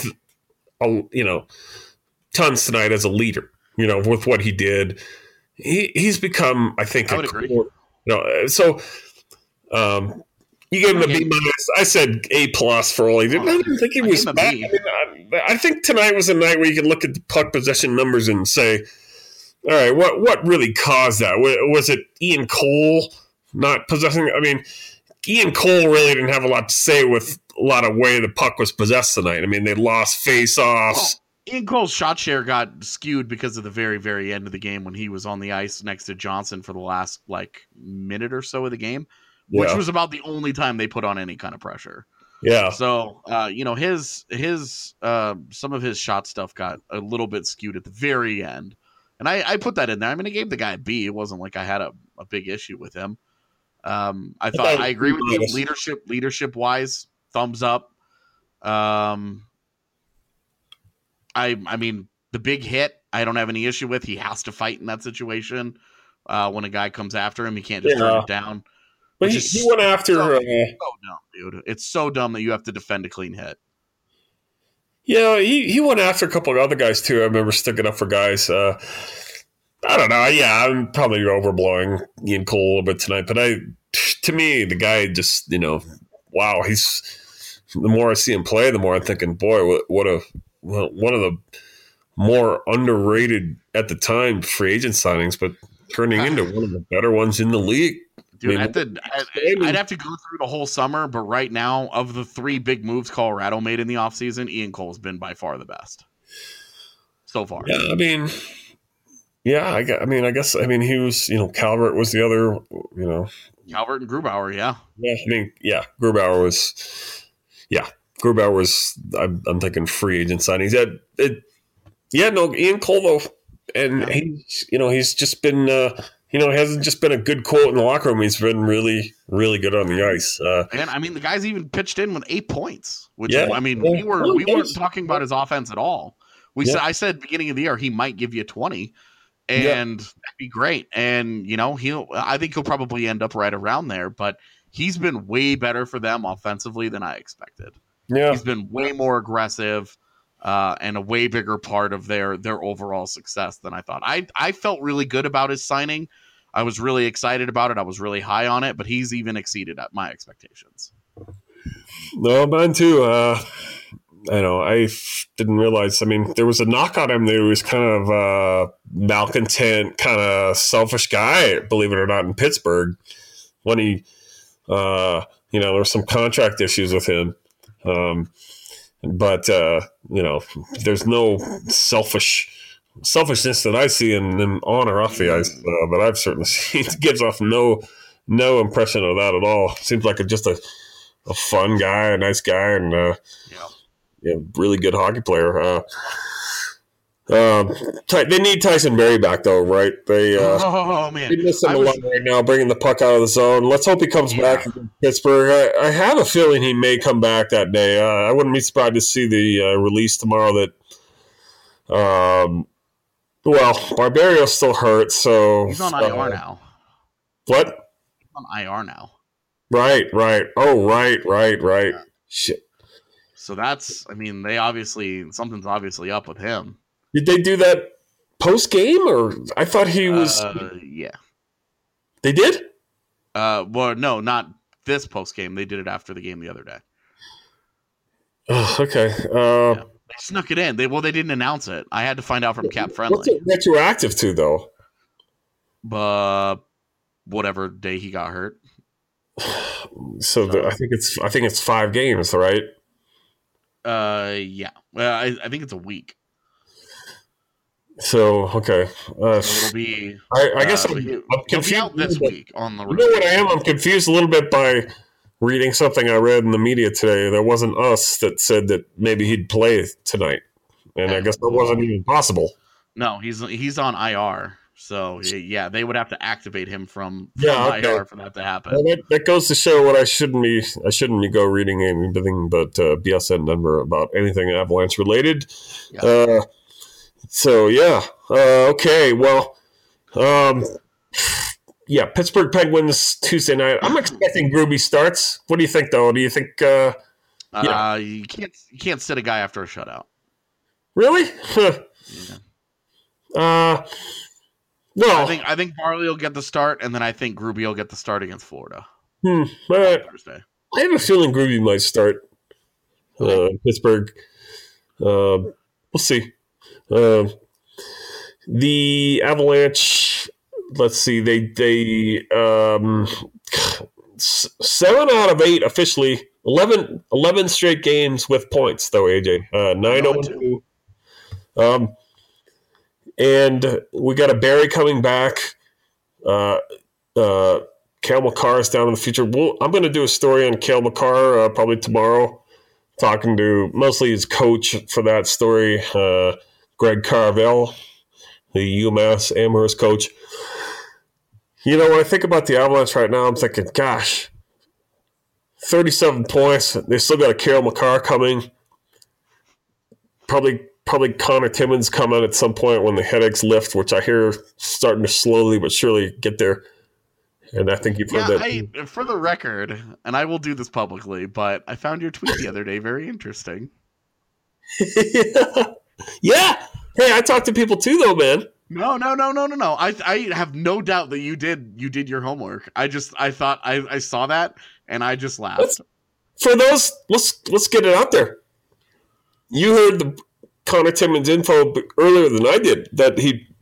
[SPEAKER 1] tons tonight as a leader, with what he did. He's become, I think,
[SPEAKER 8] I would agree.
[SPEAKER 1] So, you gave him a B-. I said A+ for all he did. I didn't think he was bad. I think tonight was a night where you can look at the puck possession numbers and say, all right, what really caused that? Was it Ian Cole not possessing? I mean, Ian Cole really didn't have a lot to say with a lot of way the puck was possessed tonight. I mean, they lost face-offs.
[SPEAKER 8] Well, Ian Cole's shot share got skewed because of the very, very end of the game when he was on the ice next to Johnson for the last, minute or so of the game, which was about the only time they put on any kind of pressure.
[SPEAKER 1] Yeah.
[SPEAKER 8] So, his some of his shot stuff got a little bit skewed at the very end. And I put that in there. I mean, I gave the guy a B. It wasn't like I had a big issue with him. I agree with you. Leadership wise, thumbs up. I mean, the big hit, I don't have any issue with. He has to fight in that situation. When a guy comes after him, he can't just turn it down.
[SPEAKER 1] But he went after.
[SPEAKER 8] So dumb, dude. It's so dumb that you have to defend a clean hit.
[SPEAKER 1] Yeah, he went after a couple of other guys, too. I remember sticking up for guys. I don't know. Yeah, I'm probably overblowing Ian Cole a little bit tonight. But to me, the guy just, wow. The more I see him play, the more I'm thinking, boy, one of the more underrated at the time free agent signings, but turning into one of the better ones in the league.
[SPEAKER 8] Dude, I'd have to go through the whole summer, but right now, of the 3 big moves Colorado made in the offseason, Ian Cole's been by far the best so far.
[SPEAKER 1] Yeah, I mean, I guess he was, Calvert was the other,
[SPEAKER 8] Calvert and Grubauer, yeah.
[SPEAKER 1] Yeah, Grubauer was, I'm thinking free agent signings. Ian Cole, though, and he's just been, it hasn't just been a good quote in the locker room. He's been really, really good on the ice.
[SPEAKER 8] And the guy's even pitched in with 8 points, which we weren't talking about his offense at all. I said beginning of the year he might give you 20, and that'd be great. And I think he'll probably end up right around there. But he's been way better for them offensively than I expected.
[SPEAKER 1] Yeah.
[SPEAKER 8] He's been way more aggressive and a way bigger part of their overall success than I thought. I felt really good about his signing. I was really excited about it. I was really high on it, but he's even exceeded my expectations.
[SPEAKER 1] No, mine too. I didn't realize. I mean, there was a knock on him that he was kind of a malcontent, kind of selfish guy, believe it or not, in Pittsburgh. When he, there were some contract issues with him. But there's no selfishness that I see in him on or off the ice that I've certainly seen. It gives off no impression of that at all. Seems like just a fun guy, a nice guy, and really good hockey player. They need Tyson Berry back, though, right? They miss him a lot right now, bringing the puck out of the zone. Let's hope he comes back in Pittsburgh. I have a feeling he may come back that day. I wouldn't be surprised to see the release tomorrow that Barbario's still hurt, so...
[SPEAKER 8] He's on IR now.
[SPEAKER 1] What?
[SPEAKER 8] He's on IR now.
[SPEAKER 1] Right. Oh, right. Yeah. Shit.
[SPEAKER 8] So that's, something's obviously up with him.
[SPEAKER 1] Did they do that post-game, or I thought he was...
[SPEAKER 8] Yeah.
[SPEAKER 1] They did?
[SPEAKER 8] Well, no, not this post-game. They did it after the game the other day.
[SPEAKER 1] Oh, okay.
[SPEAKER 8] They snuck it in. They didn't announce it. I had to find out from Cap Friendly.
[SPEAKER 1] What's it retroactive to, though?
[SPEAKER 8] Whatever day he got hurt.
[SPEAKER 1] So I think it's 5 games, right?
[SPEAKER 8] Yeah. I think it's a week.
[SPEAKER 1] So okay.
[SPEAKER 8] So it'll be.
[SPEAKER 1] I guess I'm confused
[SPEAKER 8] out this week on the.
[SPEAKER 1] You know what I am? I'm confused a little bit by reading something I read in the media today. That wasn't us that said that maybe he'd play tonight, and I guess that wasn't even possible.
[SPEAKER 8] No, he's on IR. So yeah, they would have to activate him from IR for that to happen.
[SPEAKER 1] Well, that goes to show what I shouldn't be go reading anything but BSN Denver about anything Avalanche related. Yeah. Okay. Well, Pittsburgh Penguins Tuesday night. I'm expecting Gruby starts. What do you think, though? Do you think?
[SPEAKER 8] You can't sit a guy after a shutout.
[SPEAKER 1] Really?
[SPEAKER 8] Yeah.
[SPEAKER 1] No,
[SPEAKER 8] I think Barley will get the start, and then I think Gruby will get the start against Florida.
[SPEAKER 1] Thursday. I have a feeling Gruby might start Pittsburgh. We'll see. The Avalanche. Let's see. They 7 out of 8 officially. 11 straight games with points, though. AJ 9-0-2. And we got a Barry coming back. Cale Makar is down in the future. I'm going to do a story on Cale Makar probably tomorrow, talking to mostly his coach for that story, Greg Carvel, the UMass Amherst coach. When I think about the Avalanche right now, I'm thinking, gosh, 37 points. They still got a Cale Makar coming. Probably Connor Timmins coming at some point when the headaches lift, which I hear starting to slowly but surely get there. And I think you've heard that.
[SPEAKER 8] For the record, and I will do this publicly, but I found your tweet the other day very interesting.
[SPEAKER 1] Yeah. Hey, I talk to people too, though, man.
[SPEAKER 8] No. I have no doubt that you did your homework. I thought I saw that and I just laughed.
[SPEAKER 1] Let's get it out there. You heard the Connor Timmins info earlier than I did that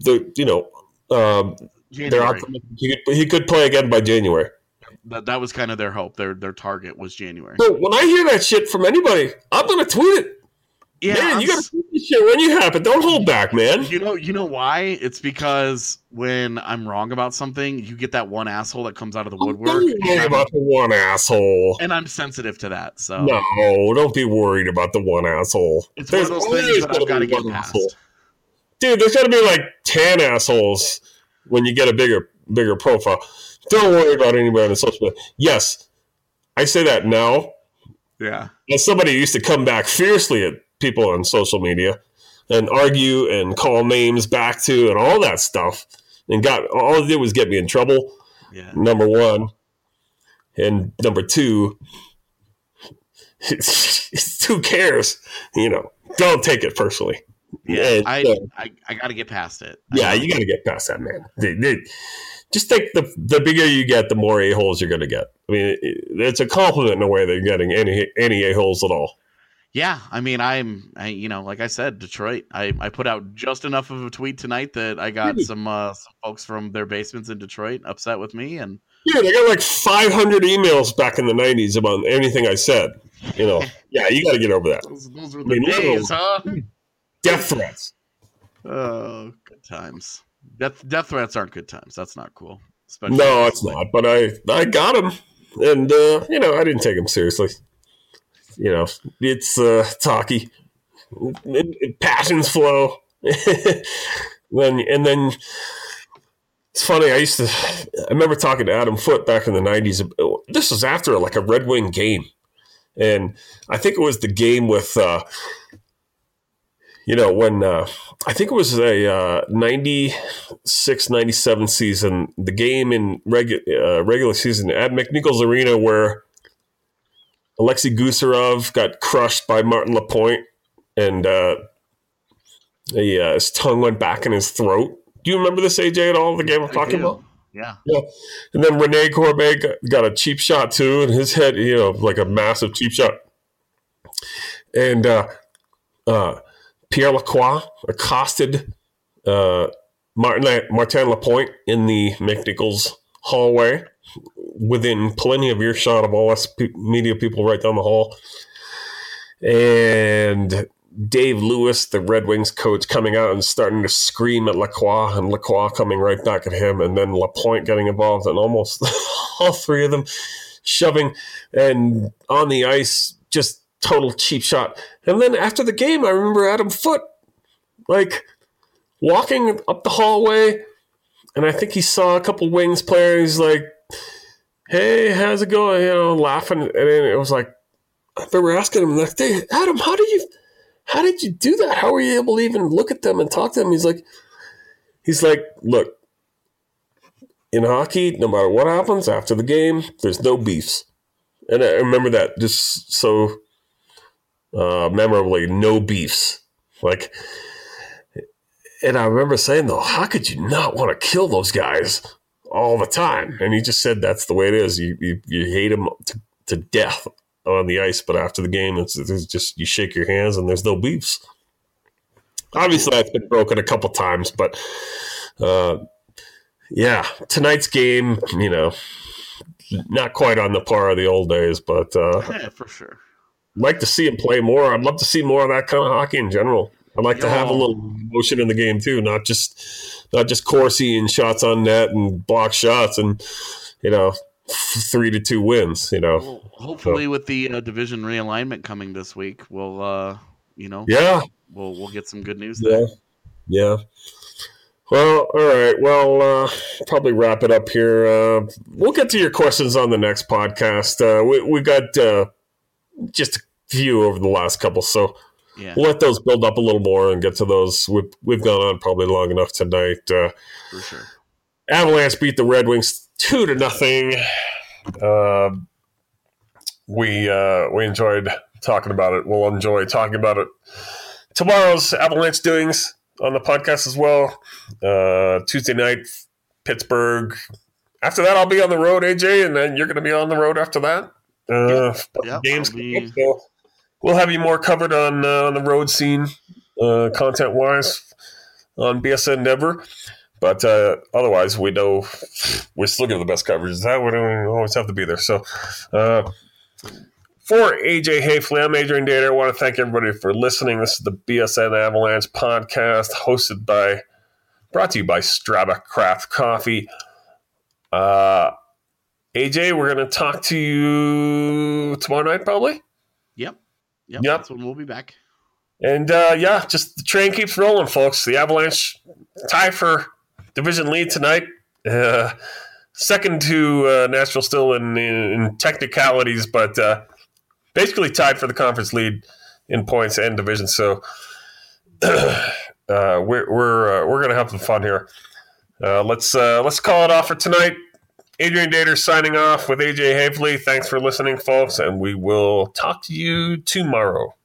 [SPEAKER 1] he could play again by January.
[SPEAKER 8] That was kind of their hope. Their target was January.
[SPEAKER 1] So when I hear that shit from anybody, I'm gonna tweet it. Yeah, man, you gotta tweet this shit when you happen. Don't hold back, man.
[SPEAKER 8] You know why? It's because when I'm wrong about something, you get that one asshole that comes out of the woodwork.
[SPEAKER 1] Don't worry about the one asshole.
[SPEAKER 8] And I'm sensitive to that. So
[SPEAKER 1] no, don't be worried about the one asshole.
[SPEAKER 8] It's one of those things that I've got to get past.
[SPEAKER 1] Asshole. Dude, there's got to be like 10 assholes when you get a bigger profile. Don't worry about anybody on social media. Yes, I say that now.
[SPEAKER 8] Yeah.
[SPEAKER 1] As somebody who used to come back fiercely at people on social media and argue and call names back to and all that stuff, and all it did was get me in trouble.
[SPEAKER 8] Yeah.
[SPEAKER 1] Number one, and number two, who cares? Don't take it personally.
[SPEAKER 8] Yeah, I got to get past it.
[SPEAKER 1] Yeah, you got to get past that, man. Just think the bigger you get, the more a-holes you're going to get. I mean, it's a compliment in a way that you're getting any a-holes at all.
[SPEAKER 8] Yeah, I mean, like I said, Detroit. I put out just enough of a tweet tonight that I got some folks from their basements in Detroit upset with me, and
[SPEAKER 1] yeah, they got like 500 emails back in the 90s about anything I said. Yeah, you got to get over that.
[SPEAKER 8] Those were the days, huh?
[SPEAKER 1] Death threats.
[SPEAKER 8] Oh, good times. Death threats aren't good times. That's not cool.
[SPEAKER 1] No, it's not. But I got them, and I didn't take them seriously. It's hockey. Passions flow. Then it's funny. I remember talking to Adam Foote back in the 90s. This was after like a Red Wing game, and I think it was the game with. When I think it was a 96-97 season, the game in regular season at McNichols Arena where Alexei Gusarov got crushed by Martin Lapointe and his tongue went back in his throat. Do you remember this, AJ, at all, the game I'm talking about?
[SPEAKER 8] Yeah.
[SPEAKER 1] And then Rene Corbet got a cheap shot too, and his head, like a massive cheap shot. And Pierre Lacroix accosted Martin Lapointe in the McNichols hallway within plenty of earshot of all us media people right down the hall. And Dave Lewis, the Red Wings coach, coming out and starting to scream at Lacroix, and Lacroix coming right back at him, and then Lapointe getting involved, and almost all three of them shoving and on the ice, just total cheap shot. And then after the game, I remember Adam Foote, like, walking up the hallway, and I think he saw a couple Wings players, like, hey, how's it going? Laughing. And then it was like, I remember asking him, like, hey, Adam, how did you do that? How were you able to even look at them and talk to them? He's like, look, in hockey, no matter what happens after the game, there's no beefs. And I remember that just so memorably, no beefs. Like, and I remember saying, though, how could you not want to kill those guys all the time? And he just said that's the way it is. You hate them to death on the ice, but after the game, it's just you shake your hands and there's no beefs. Obviously, that's been broken a couple times, but tonight's game, not quite on the par of the old days, but
[SPEAKER 8] yeah, for sure.
[SPEAKER 1] I'd like to see him play more. I'd love to see more of that kind of hockey in general. I'd like to have a little emotion in the game too, not just Corsi and shots on net and block shots and 3-2 wins.
[SPEAKER 8] Well, hopefully, with the division realignment coming this week, we'll we'll get some good news there.
[SPEAKER 1] Yeah. Well, all right. Well, probably wrap it up here. We'll get to your questions on the next podcast. We got just a few over the last couple, so we'll let those build up a little more and get to those. We've gone on probably long enough tonight.
[SPEAKER 8] For sure.
[SPEAKER 1] Avalanche beat the Red Wings 2-0. We enjoyed talking about it. We'll enjoy talking about it. Tomorrow's Avalanche doings on the podcast as well. Tuesday night, Pittsburgh. After that, I'll be on the road, AJ, and then you're going to be on the road after that. Games. So we'll have you more covered on the road scene, content-wise, on BSN Denver. But otherwise, we know we're still getting the best coverage. Is that what we always have to be there? So for AJ Hafley, I'm Adrian Dater. I want to thank everybody for listening. This is the BSN Avalanche podcast, brought to you by Strava Craft Coffee. AJ, we're going to talk to you tomorrow night, probably?
[SPEAKER 8] Yep. That's when we'll be back.
[SPEAKER 1] And, just the train keeps rolling, folks. The Avalanche tie for division lead tonight. Second to Nashville still in technicalities, but basically tied for the conference lead in points and division. So we're going to have some fun here. Let's call it off for tonight. Adrian Dater signing off with AJ Havely. Thanks for listening, folks, and we will talk to you tomorrow.